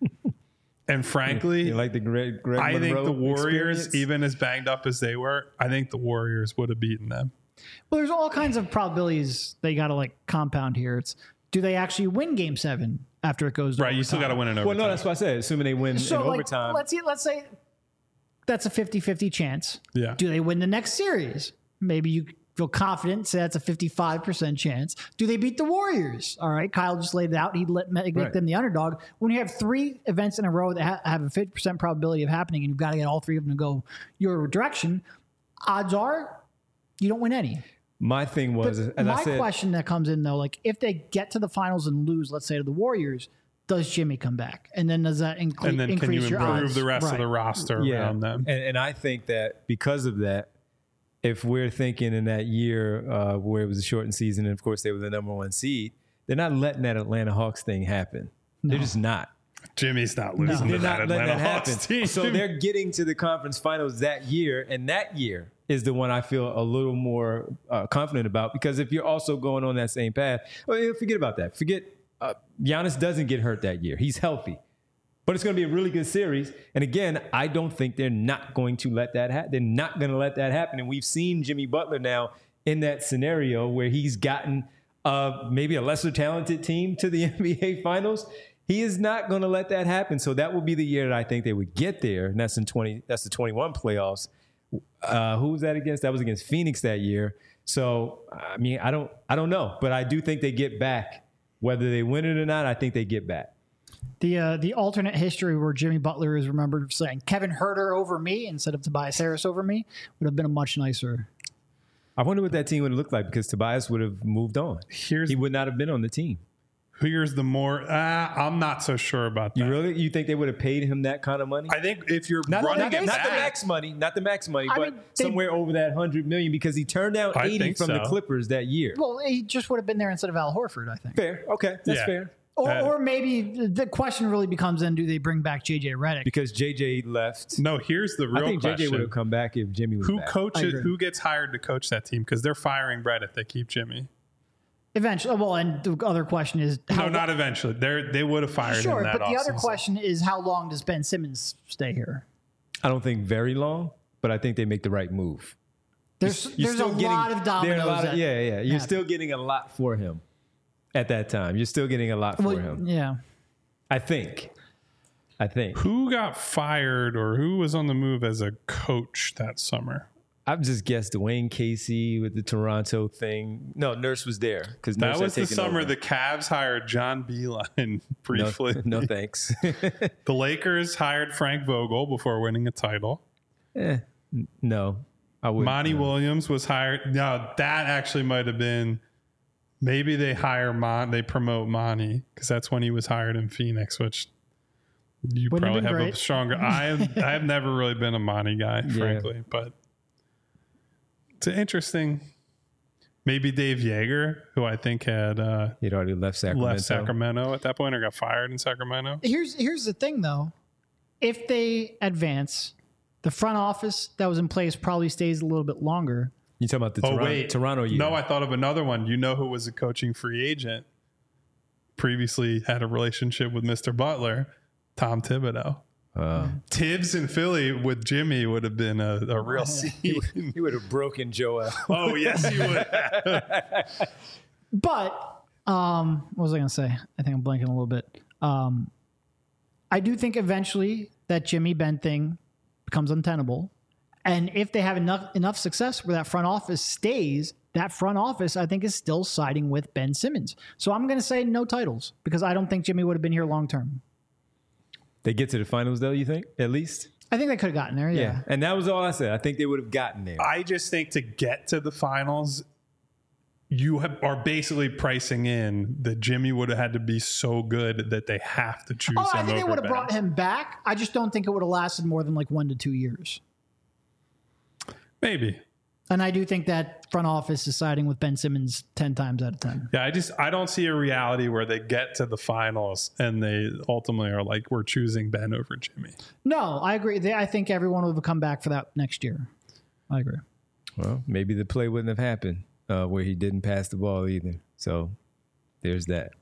And frankly, You like the Greg, Greg I think Monroe the Warriors, experience? even as banged up as they were, I think the Warriors would have beaten them. Well, there's all kinds of probabilities they got to like compound here. It's do they actually win Game Seven after it goes to Right, you still got to overtime? win in Well, overtime. no, that's what I said. Assuming they win So in like, overtime. let's see, let's say that's a fifty-fifty chance. yeah. Do they win the next series? Maybe you feel confident, say that's a fifty-five percent chance. Do they beat the Warriors? All right, Kyle just laid it out. He'd let make Right. them the underdog. When you have three events in a row that ha- have a fifty percent probability of happening and you've got to get all three of them to go your direction, odds are you don't win any. My thing was, But as my I said, question that comes in though, like if they get to the finals and lose, let's say to the Warriors, does Jimmy come back? And then does that incre- And then increase can you your improve odds? the rest of Right. the roster yeah, around them? And, and I think that because of that, if we're thinking in that year uh, where it was a shortened season, and of course they were the number one seed, they're not letting that Atlanta Hawks thing happen. They're just not. Jimmy's not losing They're to not that letting Atlanta that Hawks happen. team. So they're getting to the conference finals that year, and that year is the one I feel a little more uh, confident about because if you're also going on that same path, well, yeah, forget about that. Forget uh, Giannis doesn't get hurt that year. He's healthy. But it's going to be a really good series. And again, I don't think they're not going to let that happen. They're not going to let that happen. And we've seen Jimmy Butler now in that scenario where he's gotten uh, maybe a lesser talented team to the N B A Finals. He is not going to let that happen. So that will be the year that I think they would get there. And that's in twenty. That's the twenty-one playoffs. Uh, who was that against? That was against Phoenix that year. So I mean, I don't, I don't know, but I do think they get back. Whether they win it or not, I think they get back. The uh, the alternate history where Jimmy Butler is remembered saying Kevin Herter over me instead of Tobias Harris over me would have been a much nicer. I wonder what that team would have looked like because Tobias would have moved on. Here's He would not have been on the team. Here's the more. Uh, I'm not so sure about that. You really? You think they would have paid him that kind of money? I think if you're Not, running not, it not back, the max money, not the max money, I but mean, they- somewhere over that hundred million because he turned down I eighty think from the so. Clippers that year. Well, he just would have been there instead of Al Horford, I think. Fair, okay, that's Yeah. fair. Or, Uh, or maybe the question really becomes then: do they bring back J J Redick? Because J J left. no. Here's the real I think question: J J would have come back if Jimmy was Who back. I coaches? agree. Who gets hired to coach that team? Because they're firing Brett if they keep Jimmy. Eventually, well, and the other question is how No, not eventually. They they would have fired sure. him that But the other offseason. question is how long does Ben Simmons stay here? I don't think very long, but I think they make the right move. There's You're there's a still getting- lot of there are a dominoes. lot of- that yeah, yeah. You're happen. still getting a lot for him at that time. You're still getting a lot for Well, him. yeah. I think. I think. Who got fired or who was on the move as a coach that summer? I've just guessed Dwayne Casey with the Toronto thing. No, Nurse was there because That was the summer the Cavs hired John Beeline briefly. No, no thanks. The Lakers hired Frank Vogel before winning a title. Eh, n- no, I wouldn't. Monty no. Williams was hired. No, that actually might have been. Maybe they hire Mon. They promote Monty because that's when he was hired in Phoenix, which you Wouldn't have probably been have a great. stronger. I have. I have never really been a Monty guy, frankly, but it's an interesting. Maybe Dave Yeager, who I think had uh, He'd already left Sacramento. left Sacramento at that point or got fired in Sacramento. Here's here's the thing though. If they advance, the front office that was in place probably stays a little bit longer. You talking about the Oh Toronto, wait, Toronto year? No, I thought of another one. You know who was a coaching free agent? Previously had a relationship with Mister Butler, Tom Thibodeau. Uh, Tibbs in Philly with Jimmy would have been a, a real scene. he would have broken Joel. Oh yes, he would. have. But um, what was I going to say? I think I'm blanking a little bit. Um, I do think eventually that Jimmy Ben thing becomes untenable. And if they have enough enough success where that front office stays, that front office, I think, is still siding with Ben Simmons. So I'm going to say no titles because I don't think Jimmy would have been here long term. They get to the finals though, you think? At least? I think they could have gotten there, yeah. Yeah. And that was all I said. I think they would have gotten there. I just think to get to the finals, you have, are basically pricing in that Jimmy would have had to be so good that they have to choose Oh, him I think they over would have Ben. brought him back. I just don't think it would have lasted more than like one to two years. Maybe. And I do think that front office is siding with Ben Simmons ten times out of ten. Yeah, I just I don't see a reality where they get to the finals and they ultimately are like, we're choosing Ben over Jimmy. No, I agree. They, I think everyone will come back for that next year. I agree. Well, maybe the play wouldn't have happened uh, where he didn't pass the ball either. So there's that.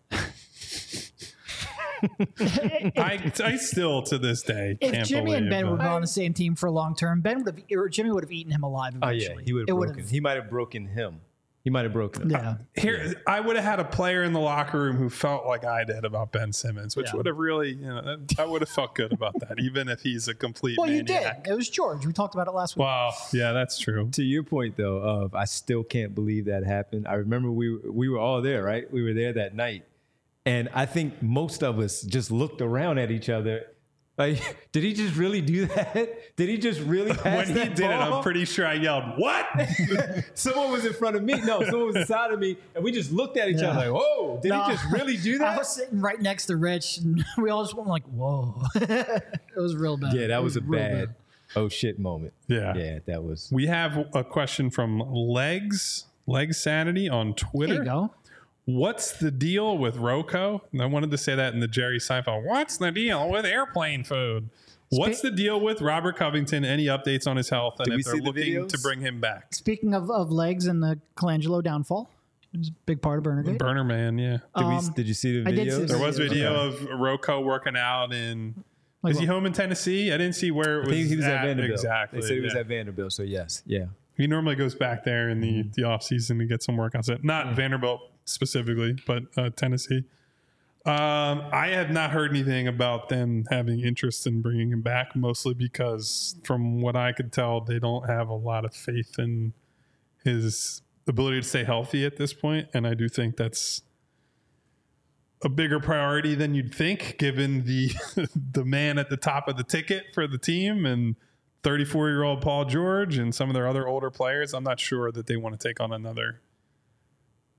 I, I still to this day If can't Jimmy believe and Ben that. would have been on the same team for a long term, Ben would have, or Jimmy would have eaten him alive Oh, eventually. yeah. He would It have would've- broken. He might have broken him. He might have broken him. Yeah. Here, I would have had a player in the locker room who felt like I did about Ben Simmons, which Yeah. would have really, you know, that, I would have felt good about that, even if he's a complete Well, you maniac. did. It was George. We talked about it last week. Wow, yeah, that's true. To your point, though, of I still can't believe that happened. I remember we we were all there, right? We were there that night, and I think most of us just looked around at each other, like, did he just really do that? Did he just really pass When he that did it, ball? I'm pretty sure I yelled, "What?" Someone was in front of me. No, someone was inside of me, and we just looked at each Yeah. other like, "Whoa, did No. he just really do I that?" was sitting right next to Rich, and we all just went like, "Whoa!" It was real bad. Yeah, that It was a real bad oh shit moment. Yeah. Yeah, that was. We have a question from Legs Legs Sanity on Twitter. There you go. What's the deal with Rocco? And I wanted to say that in the Jerry Seinfeld. What's the deal with airplane food? What's the deal with Robert Covington? Any updates on his health? And Did we if they're see the looking videos? to bring him back? Speaking of, of legs and the Colangelo downfall, it was a big part of Burnergate. Burner Man, yeah. Did, we, Um, did you see the I videos? did see the There was videos. video Okay. of Rocco working out in. Like is he what? home in Tennessee? I didn't see where it I was. think he was at, at Vanderbilt. Exactly. They said he was yeah. at Vanderbilt, so yes, yeah. He normally goes back there in the, the off season to get some workouts. In. Not Vanderbilt specifically, but uh, Tennessee. Um, I have not heard anything about them having interest in bringing him back, mostly because from what I could tell, they don't have a lot of faith in his ability to stay healthy at this point. And I do think that's a bigger priority than you'd think, given the the man at the top of the ticket for the team and thirty-four-year-old Paul George and some of their other older players. I'm not sure that they want to take on another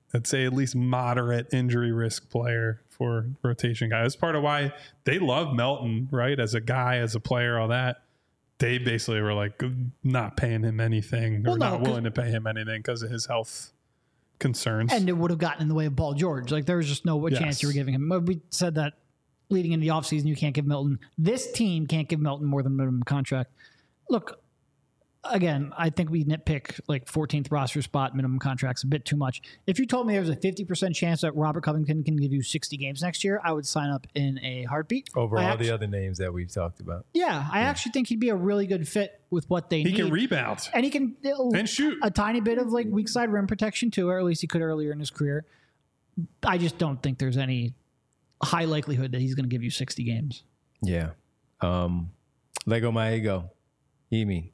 I'd say at least moderate injury risk player for rotation guy. That's part of why they love Melton, right? As a guy, as a player, all that. They basically were like not paying him anything or Well, no, not willing to pay him anything because of his health concerns. And it would have gotten in the way of Paul George. Like there was just no Yes. chance you were giving him. We said that leading into the offseason, you can't give Milton. This team can't give Milton more than minimum contract. Look, again, I think we nitpick like fourteenth roster spot, minimum contracts a bit too much. If you told me there was a fifty percent chance that Robert Covington can give you sixty games next year, I would sign up in a heartbeat. Over I all actu- the other names that we've talked about. Yeah, I actually think he'd be a really good fit with what they he need. can rebound and he can and shoot. a tiny bit of like weak side rim protection too, or at least he could earlier in his career. I just don't think there's any high likelihood that he's going to give you sixty games. Yeah. Um, Lego my ego. Emi.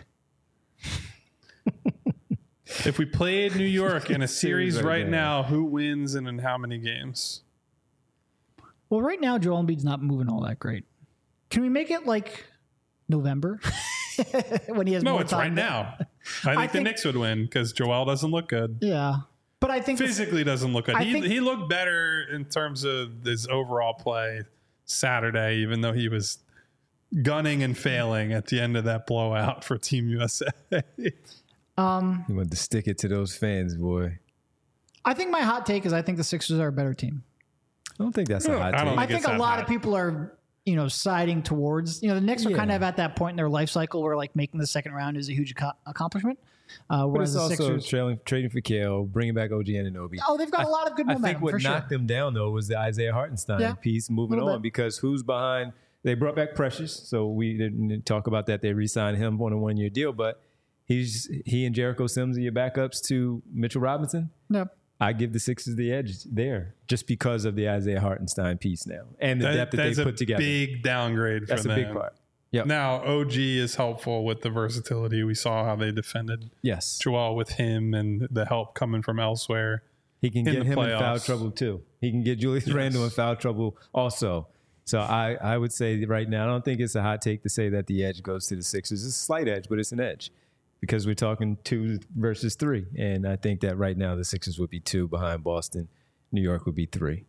If we played New York in a series right right now. now, who wins and in how many games? Well, right now Joel Embiid's not moving all that great. Can we make it like November when he has No, more it's time? right now. I think I the think- Knicks would win because Joel doesn't look good. Yeah, but I think the- Physically doesn't look good. I He, think- he looked better in terms of his overall play Saturday, even though he was gunning and failing at the end of that blowout for Team U S A. um, You want to stick it to those fans, boy. I think my hot take is I think the Sixers are a better team. I don't think that's a hot I take. don't I think think it's a that lot hot. of people are, you know, siding towards, you know, the Knicks are Yeah. kind of at that point in their life cycle where like making the second round is a huge ac- accomplishment. Uh, But whereas it's the also Sixers, trailing, trading for Kale, bringing back O G Anunoby. oh, they've got a lot of good I momentum think what for sure. knocked them down, though, was the Isaiah Hartenstein Yeah. piece moving Little on bit. because who's behind? They brought back Precious, so we didn't talk about that. They re-signed him on a one-year deal, but he's he and Jericho Sims are your backups to Mitchell Robinson. No. I give the Sixers the edge there just because of the Isaiah Hartenstein piece now and the That- depth that that's they a put together. big downgrade for That's a them. big part. Yep. Now, O G is helpful with the versatility. We saw how they defended Yes. Joel with him and the help coming from elsewhere. He can in get the him in foul playoffs. trouble too. He can get Julius Yes. Randle in foul trouble also. So I, I would say right now, I don't think it's a hot take to say that the edge goes to the Sixers. It's a slight edge, but it's an edge because we're talking two versus three. And I think that right now the Sixers would be two behind Boston. New York would be three.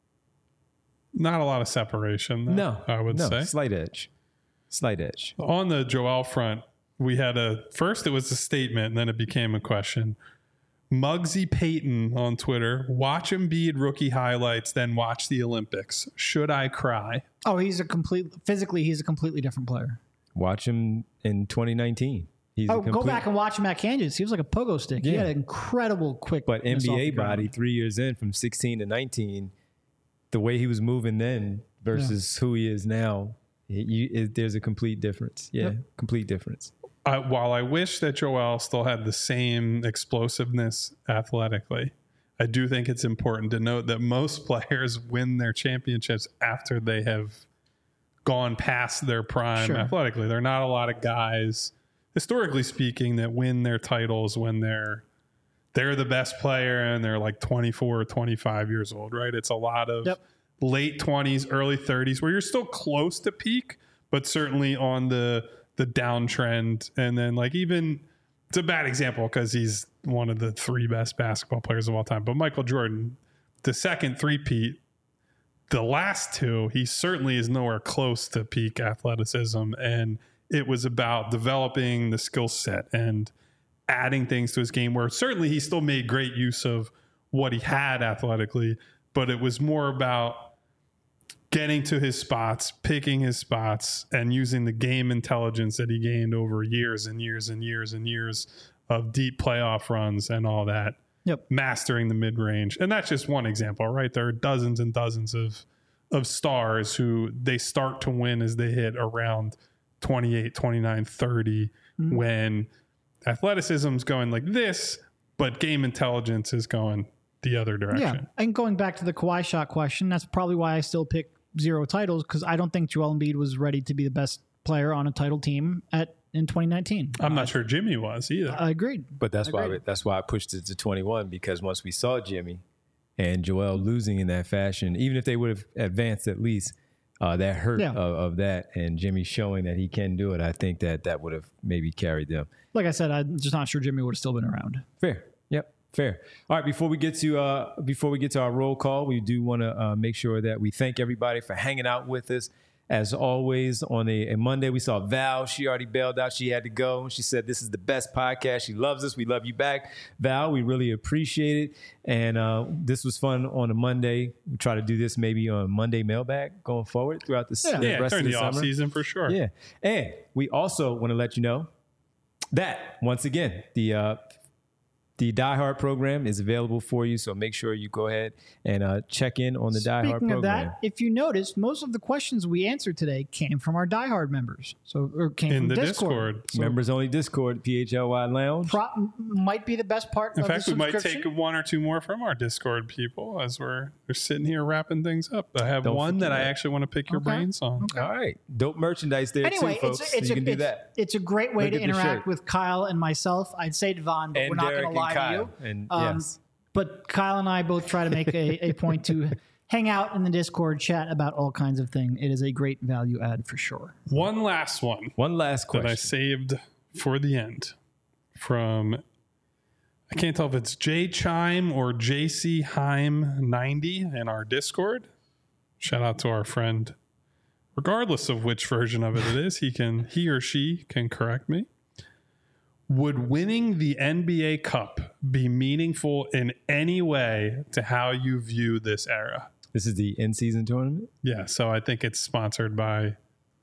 Not a lot of separation, though, No, I would no, say. slight edge. Slight edge. On the Joel front, we had a first it was a statement and then it became a question. Muggsy Payton on Twitter, watch Embiid rookie highlights, then watch the Olympics. Should I cry? Oh, he's a complete physically. He's a completely different player. Watch him in twenty nineteen. He's Oh, a complete, go back and watch him at Kansas. He was like a pogo stick. He Yeah. had an incredible quick. But N B A body three years in from sixteen to nineteen, the way he was moving then versus who he is now, it, you, it, there's a complete difference. Yeah, Yep. complete difference. I, while I wish that Joel still had the same explosiveness athletically, I do think it's important to note that most players win their championships after they have gone past their prime Sure. athletically. There are not a lot of guys, historically speaking, that win their titles when they're they're the best player and they're like twenty-four or twenty-five years old, right? It's a lot of Yep. late twenties, early thirties where you're still close to peak, but certainly on the the downtrend. And then like even it's a bad example because he's one of the three best basketball players of all time. But Michael Jordan, the second three-peat, the last two, he certainly is nowhere close to peak athleticism. And it was about developing the skill set and adding things to his game where certainly he still made great use of what he had athletically, but it was more about getting to his spots, picking his spots, and using the game intelligence that he gained over years and years and years and years of deep playoff runs and all that. Yep. Mastering the mid-range. And that's just one example, right? There are dozens and dozens of of stars who they start to win as they hit around twenty-eight, twenty-nine, thirty Mm-hmm. when athleticism's going like this, but game intelligence is going the other Yeah, direction. and going back to the Kawhi shot question, that's probably why I still pick zero titles because I don't think Joel Embiid was ready to be the best player on a title team at in twenty nineteen. I'm not sure Jimmy was either. I agreed. But that's why Agreed. that's why I pushed it to twenty-one because once we saw Jimmy and Joel losing in that fashion, even if they would have advanced at least, uh, that hurt Yeah. of, of that, and Jimmy showing that he can do it, I think that that would have maybe carried them. Like I said, I'm just not sure Jimmy would have still been around. Fair. Yep. Fair. All right. Before we get to uh, before we get to our roll call, we do want to uh, make sure that we thank everybody for hanging out with us. As always, on a, a Monday, we saw Val. She already bailed out. She had to go. She said, this is the best podcast. She loves us. We love you back. Val, we really appreciate it. And uh, this was fun on a Monday. We try to do this maybe on Monday mailbag going forward throughout the, Yeah. the Yeah, rest during of the, the off summer. season for sure. Yeah. And we also want to let you know that, once again, the uh, the Die Hard program is available for you. So make sure you go ahead and uh, check in on the Die Hard Speaking of program. that, if you noticed, most of the questions we answered today came from our Die Hard members. So, or came In from the Discord. Discord. So Members only Discord, P H L Y Lounge. pro- might be the best part In of fact, the we might subscription. take one or two more from our Discord people as we're we're sitting here wrapping things up. I have Don't one that I forget. actually want to pick your Okay. brains on. Okay. All right. Dope merchandise there Anyway, too, folks. it's, So it's, you a, can do it's, that. it's a great way Look to at the interact shirt. with Kyle and myself. I'd say Devon, but And we're not Derek going to lie and Kyle. to you. And Um, yes. But Kyle and I both try to make a, a point to hang out in the Discord, chat about all kinds of things. It is a great value add for sure. One last one One last that I question. saved for the end from, I can't tell if it's J Chime or J C Heim ninety in our Discord. Shout out to our friend. Regardless of which version of it it is, he can he or she can correct me. Would winning the N B A Cup be meaningful in any way to how you view this era? This is the in-season tournament. Yeah, so I think it's sponsored by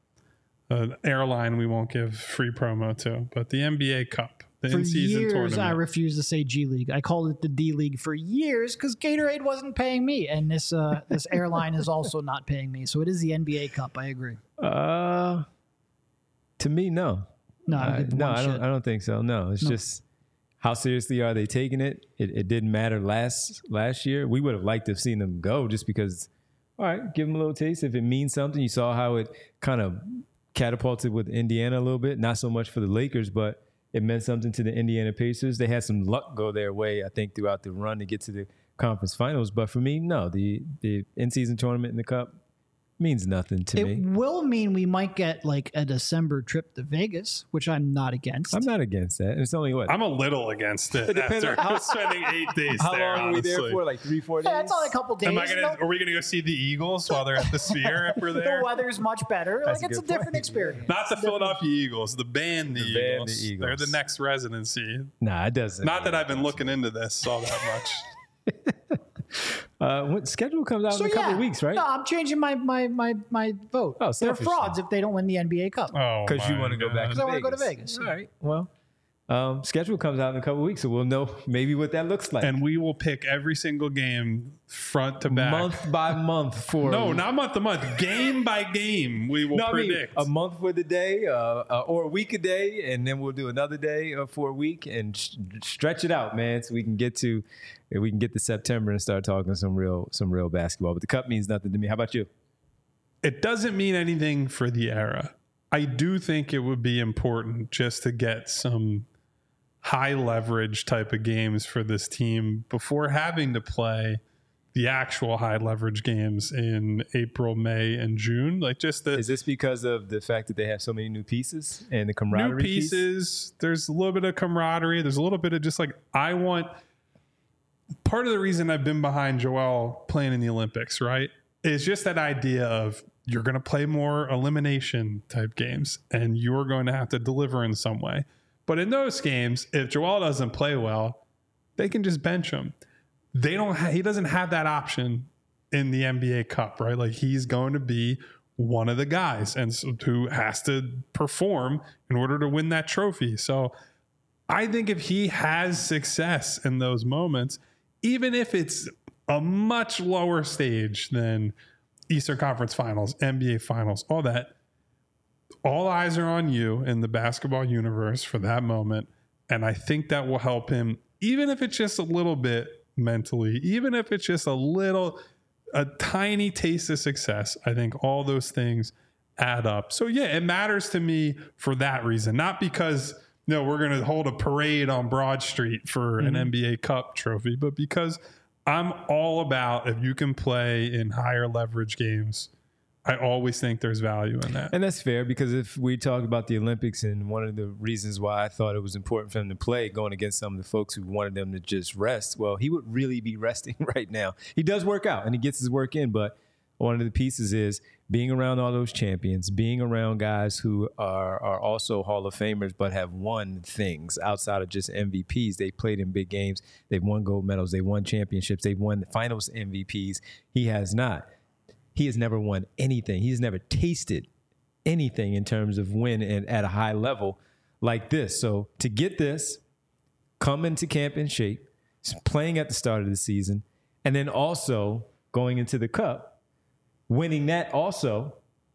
an airline we won't give free promo to, but the N B A Cup, the For in-season years, tournament. I refused to say G League. I called it the D League for years because Gatorade wasn't paying me, and this uh, this airline is also not paying me. So it is the N B A Cup. I agree. Uh, to me, no. No, I Uh, don't give no, one I don't. shit. I don't think so. No, it's No. just how seriously are they taking it? It, it didn't matter last last year. We would have liked to have seen them go just because. All right, give them a little taste. If it means something, you saw how it kind of catapulted with Indiana a little bit. Not so much for the Lakers, but it meant something to the Indiana Pacers. They had some luck go their way, I think, throughout the run to get to the conference finals. But for me, no, the the in-season tournament in the Cup means nothing to It me. will mean we might get like a December trip to Vegas, which I'm not against. I'm not against that. It's only what I'm a little against it, It depends after on how- spending eight days how there. long are we honestly. there for? Like three, four days. Yeah, it's only a couple days. Am I gonna? No- Are we gonna go see the Eagles while they're at the Sphere? If we're the there, weather's much better. That's like a it's a good different point. experience. not the Philadelphia Eagles, the band, the, The band, Eagles. the They're Eagles. the next residency. Nah, it doesn't. Not that I've been looking into this all that much. Uh, what schedule comes out So in a couple yeah, of weeks, right? No, I'm changing my my my my vote. Oh, They're selfishly. frauds if they don't win the N B A Cup. Oh, Because you my want to go back. God. To I wanna go to Vegas. Vegas. All right. Well, um, schedule comes out in a couple of weeks, so we'll know maybe what that looks like. And we will pick every single game front to back. month by month for No, not month to month. Game by game, we will No, I mean predict. a month for the day, uh, uh, or a week a day, and then we'll do another day uh, for a week and sh- stretch it out, man, so we can get to we can get to September and start talking some real some real basketball. But the Cup means nothing to me. How about you? It doesn't mean anything for the era. I do think it would be important just to get some high leverage type of games for this team before having to play the actual high leverage games in April, May, and June. Like just the Is this because of the fact that they have so many new pieces and the new camaraderie piece? pieces. There's a little bit of camaraderie. There's a little bit of just like, I want part of the reason I've been behind Joel playing in the Olympics, right? Is just that idea of you're going to play more elimination type games and you're going to have to deliver in some way. But in those games, if Joel doesn't play well, they can just bench him. They don't. Ha- he doesn't have that option in the N B A Cup, right? Like he's going to be one of the guys, and so, who has to perform in order to win that trophy. So, I think if he has success in those moments, even if it's a much lower stage than Eastern Conference Finals, N B A Finals, all that, all eyes are on you in the basketball universe for that moment. And I think that will help him, even if it's just a little bit mentally, even if it's just a little, a tiny taste of success. I think all those things add up. So yeah, it matters to me for that reason, not because no, we're going to hold a parade on Broad Street for an N B A Cup trophy, but because I'm all about if you can play in higher leverage games I always think there's value in that. And that's fair, because if we talk about the Olympics, and one of the reasons why I thought it was important for him to play going against some of the folks who wanted them to just rest, well, he would really be resting right now. He does work out and he gets his work in, but one of the pieces is being around all those champions, being around guys who are, are also Hall of Famers but have won things outside of just M V Ps. They played in big games. They've won gold medals. They've won championships. They've won finals M V Ps. He has not. He has never won anything. He's never tasted anything in terms of win and at a high level like this. So to get this, come into camp in shape, playing at the start of the season, and then also going into the Cup, winning that also,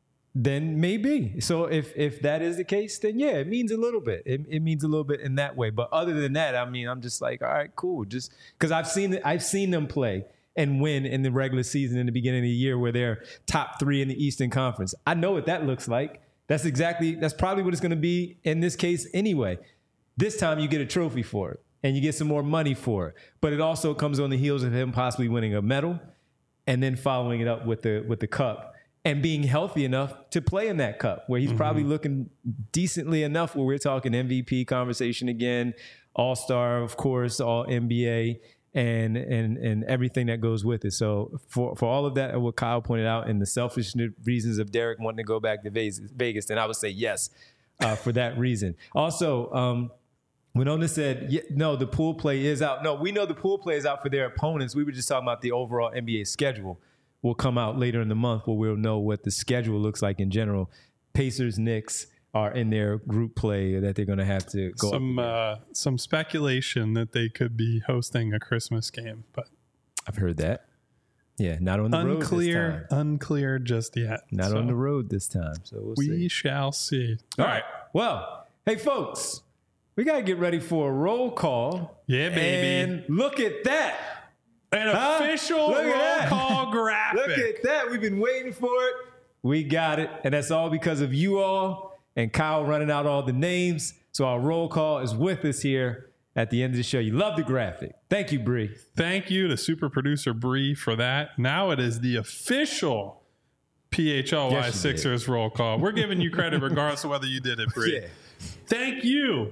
then maybe. So if if that is the case, then yeah, it means a little bit. It, it means a little bit in that way. But other than that, I mean, I'm just like, all right, cool. Just because I've seen I've seen them play and win in the regular season in the beginning of the year where they're top three in the Eastern Conference. I know what that looks like. That's exactly, that's probably what it's going to be in this case anyway. This time you get a trophy for it and you get some more money for it. But it also comes on the heels of him possibly winning a medal and then following it up with the with the Cup and being healthy enough to play in that Cup where he's mm-hmm. probably looking decently enough where we're talking M V P conversation again, All-Star, of course, All N B A. And and and everything that goes with it. So for, for all of that, and what Kyle pointed out, and the selfish reasons of Derek wanting to go back to Vegas, then I would say yes uh, for that reason. Also, um, when Ona said, yeah, no, the pool play is out. No, we know the pool play is out for their opponents. We were just talking about the overall N B A schedule will come out later in the month where we'll know what the schedule looks like in general. Pacers, Knicks are in their group play that they're going to have to go some uh, some speculation that they could be hosting a Christmas game, but I've heard that. Yeah, not on the road this unclear, unclear just yet. Not so on the road this time. So we'll we see. shall see. All right. Well, hey folks, we got to get ready for a roll call. Yeah, baby. And look at that. An Huh? official Look roll at that. call graphic. Look at that. We've been waiting for it. We got it. And that's all because of you all and Kyle running out all the names. So our roll call is with us here at the end of the show. You love the graphic. Thank you, Bree. Thank you to super producer Bree for that. Now it is the official P H L Y Yes, Sixers did. roll call. We're giving you credit regardless of whether you did it, Bree. Yeah. Thank you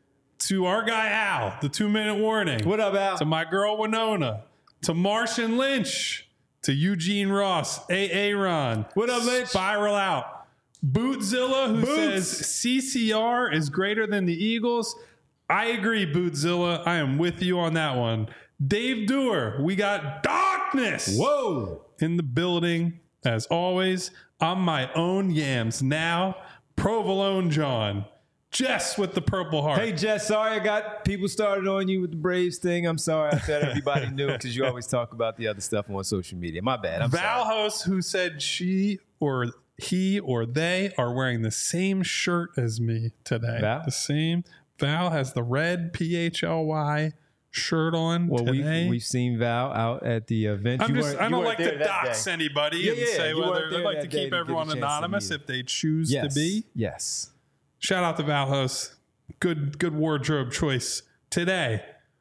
to our guy Al, the two-minute warning. What up, Al? To my girl Winona. To Martian Lynch. To Eugene Ross. A. Aaron. What up, Lynch? Spiral Out. Bootzilla, who Boots. says C C R is greater than the Eagles. I agree, Bootzilla. I am with you on that one. Dave Dewar, we got darkness. Whoa. In the building, as always. I'm my own yams now. Provolone John. Jess with the Purple Heart. Hey, Jess, sorry I got people started on you with the Braves thing. I'm sorry. I thought everybody knew because you always talk about the other stuff on social media. My bad. I'm Val sorry. Host, who said she or he or they are wearing the same shirt as me today. Val? The same. Val has the red P H L Y shirt on Well, today. we've, we've seen Val out at the event. I'm You just, weren't- I you don't weren't like there to that dox day. anybody Yeah, and yeah, say you weren't whether there I'd like that to day keep to get a everyone chance to anonymous meet him. if they choose Yes. to be. Yes. Shout out to Val Host. Good, good wardrobe choice today.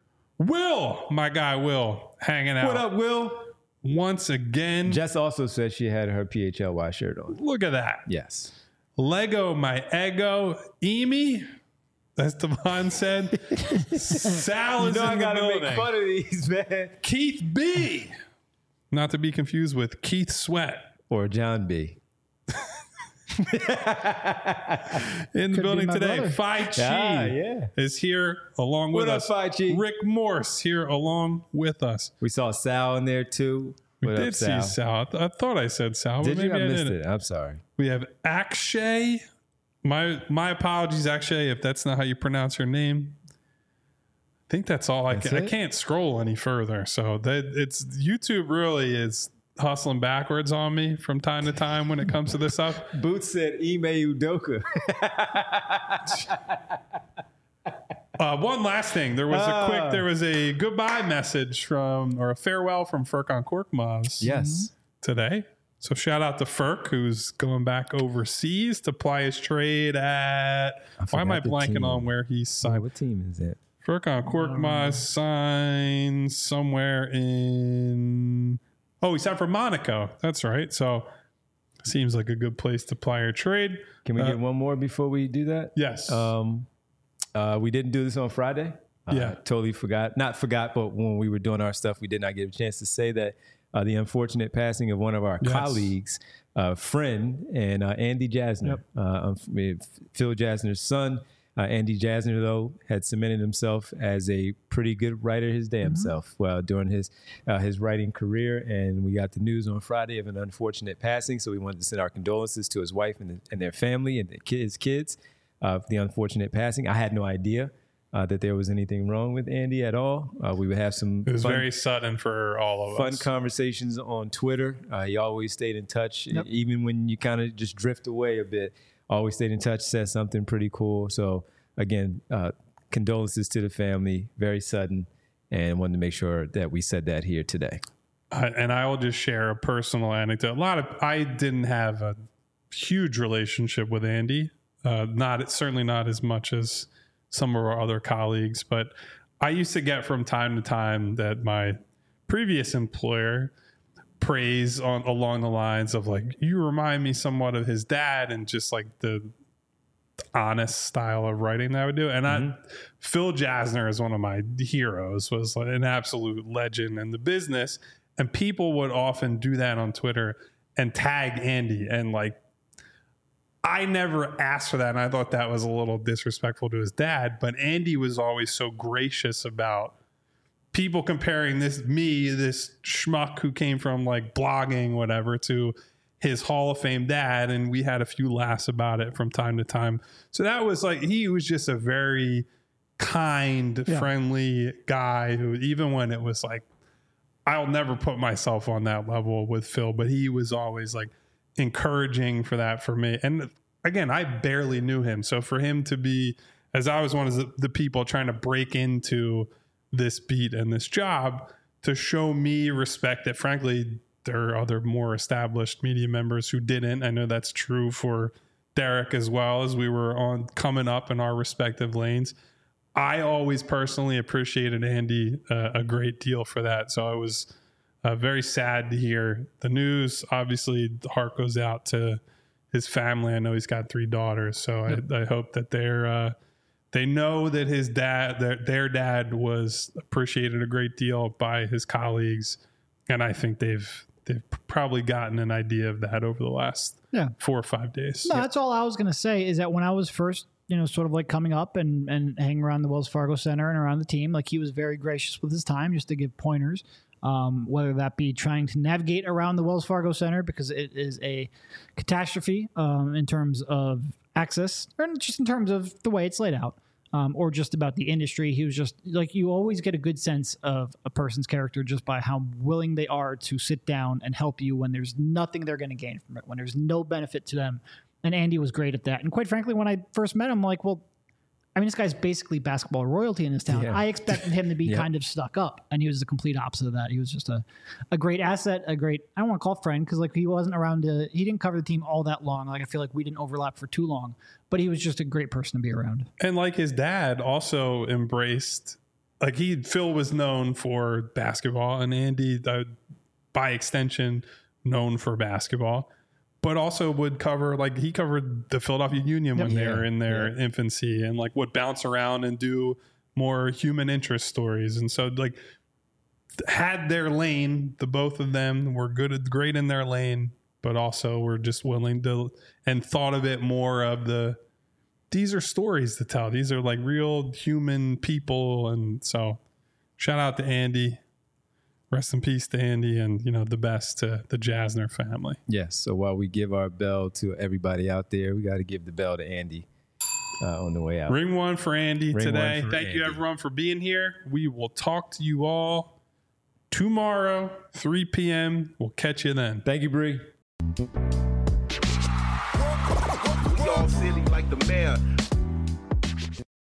Will, my guy Will, hanging out. What up, Will? Once again. Jess also said she had her P H L Y shirt on. Look at that. Yes. Lego my ego. Emi, as Devon said. Sal You is know I in the gotta building. make fun of these, man. Keith B. Not to be confused with Keith Sweat. Or John B. In the Could be building my today. brother. Phi Chi Ah, yeah. is here along with What up, us. Phi Chi? Rick Morse here along with us. We saw Sal in there too. We What did up, see Sal? Sal. I, th- I thought I said Sal, but Did maybe you? I I missed didn't. it. I'm sorry. We have Akshay. My my apologies, Akshay, if that's not how you pronounce her name. I think that's all I That's can. I it? can't scroll any further. So that it's YouTube really is hustling backwards on me from time to time when it comes to this stuff. Boots said Ime Udoka. Uh, one last thing. There was a Ah. quick, there was a goodbye message from, or a farewell from Furkan Korkmaz Yes. today. So shout out to Furk, who's going back overseas to ply his trade at, why am I forgot the blanking team. on where he's Sorry, signed? what team is it? Furkan Korkmaz signed somewhere in, oh, he signed for Monaco. That's right. So seems like a good place to apply or trade. Can we uh, get one more before we do that? Yes. Um, uh, we didn't do this on Friday. Uh, Yeah. Totally forgot. Not forgot, but when we were doing our stuff, we did not get a chance to say that uh, the unfortunate passing of one of our Yes. colleagues, uh, friend, and uh, Andy Jasner. Yep. Uh, um, Phil Jasner's son. Uh, Andy Jasner, though, had cemented himself as a pretty good writer his damn Mm-hmm. self well, during his uh, his writing career. And we got the news on Friday of an unfortunate passing. So we wanted to send our condolences to his wife and, and their family and the kids, his kids uh, for the unfortunate passing. I had no idea uh, that there was anything wrong with Andy at all. Uh, we would have some It was fun, very sudden for all of fun us. conversations on Twitter. Uh, he always stayed in touch, Yep. even when you kind of just drift away a bit. Always stayed in touch, said something pretty cool. So again, uh, condolences to the family. Very sudden, and wanted to make sure that we said that here today. Uh, and I will just share a personal anecdote. A lot of I didn't have a huge relationship with Andy. Uh, not certainly not as much as some of our other colleagues, but I used to get from time to time that my previous employer praise on along the lines of like, you remind me somewhat of his dad, and just like the honest style of writing that I would do. And I, Phil Jasner is one of my heroes, was like an absolute legend in the business. And people would often do that on Twitter and tag Andy. And like, I never asked for that. And I thought that was a little disrespectful to his dad. But Andy was always so gracious about people comparing this, me, this schmuck who came from like blogging, whatever, to his Hall of Fame dad. And we had a few laughs about it from time to time. So that was like, he was just a very kind, Yeah. friendly guy who, even when it was like, I'll never put myself on that level with Phil, but he was always like encouraging for that for me. And again, I barely knew him. So for him to be, as I was one of the, the people trying to break into this beat and this job, to show me respect that frankly, there are other more established media members who didn't. I know that's true for Derek as well, as we were on coming up in our respective lanes. I always personally appreciated Andy uh, a great deal for that. So I was uh, very sad to hear the news. Obviously, the heart goes out to his family. I know he's got three daughters, so yep. I, I hope that they're uh, they know that his dad, their, their dad, was appreciated a great deal by his colleagues, and I think they've they've probably gotten an idea of that over the last Yeah. four or five days. No, that's all I was going to say is that when I was first, you know, sort of like coming up and, and hanging around the Wells Fargo Center and around the team, like he was very gracious with his time just to give pointers, um, whether that be trying to navigate around the Wells Fargo Center because it is a catastrophe um, in terms of access or just in terms of the way it's laid out. Um, or just about the industry. He was just like, you always get a good sense of a person's character just by how willing they are to sit down and help you when there's nothing they're going to gain from it, when there's no benefit to them. And Andy was great at that. And quite frankly, when I first met him, I'm like, well, I mean, this guy's basically basketball royalty in this town. Yeah. I expected him to be Yep. kind of stuck up, and he was the complete opposite of that. He was just a, a great asset, a great, I don't want to call it friend, because like he wasn't around to, he didn't cover the team all that long. Like I feel like we didn't overlap for too long, but he was just a great person to be around. And like his dad also embraced, like he, Phil was known for basketball, and Andy, uh, by extension, known for basketball, but also would cover, like he covered the Philadelphia Union when Yep. they Yeah. were in their Yeah. infancy, and like would bounce around and do more human interest stories. And so like had their lane, the both of them were good, at, great in their lane, but also were just willing to, and thought of it more of the, these are stories to tell. These are like real human people. And so shout out to Andy. Rest in peace to Andy, and, you know, the best to the Jasner family. Yes. So while we give our bell to everybody out there, we got to give the bell to Andy uh, on the way out. Ring one for Andy Ring today. one for Thank you, Andy. everyone, for being here. We will talk to you all tomorrow, three p.m. We'll catch you then. Thank you, Bree. We all silly like the mayor.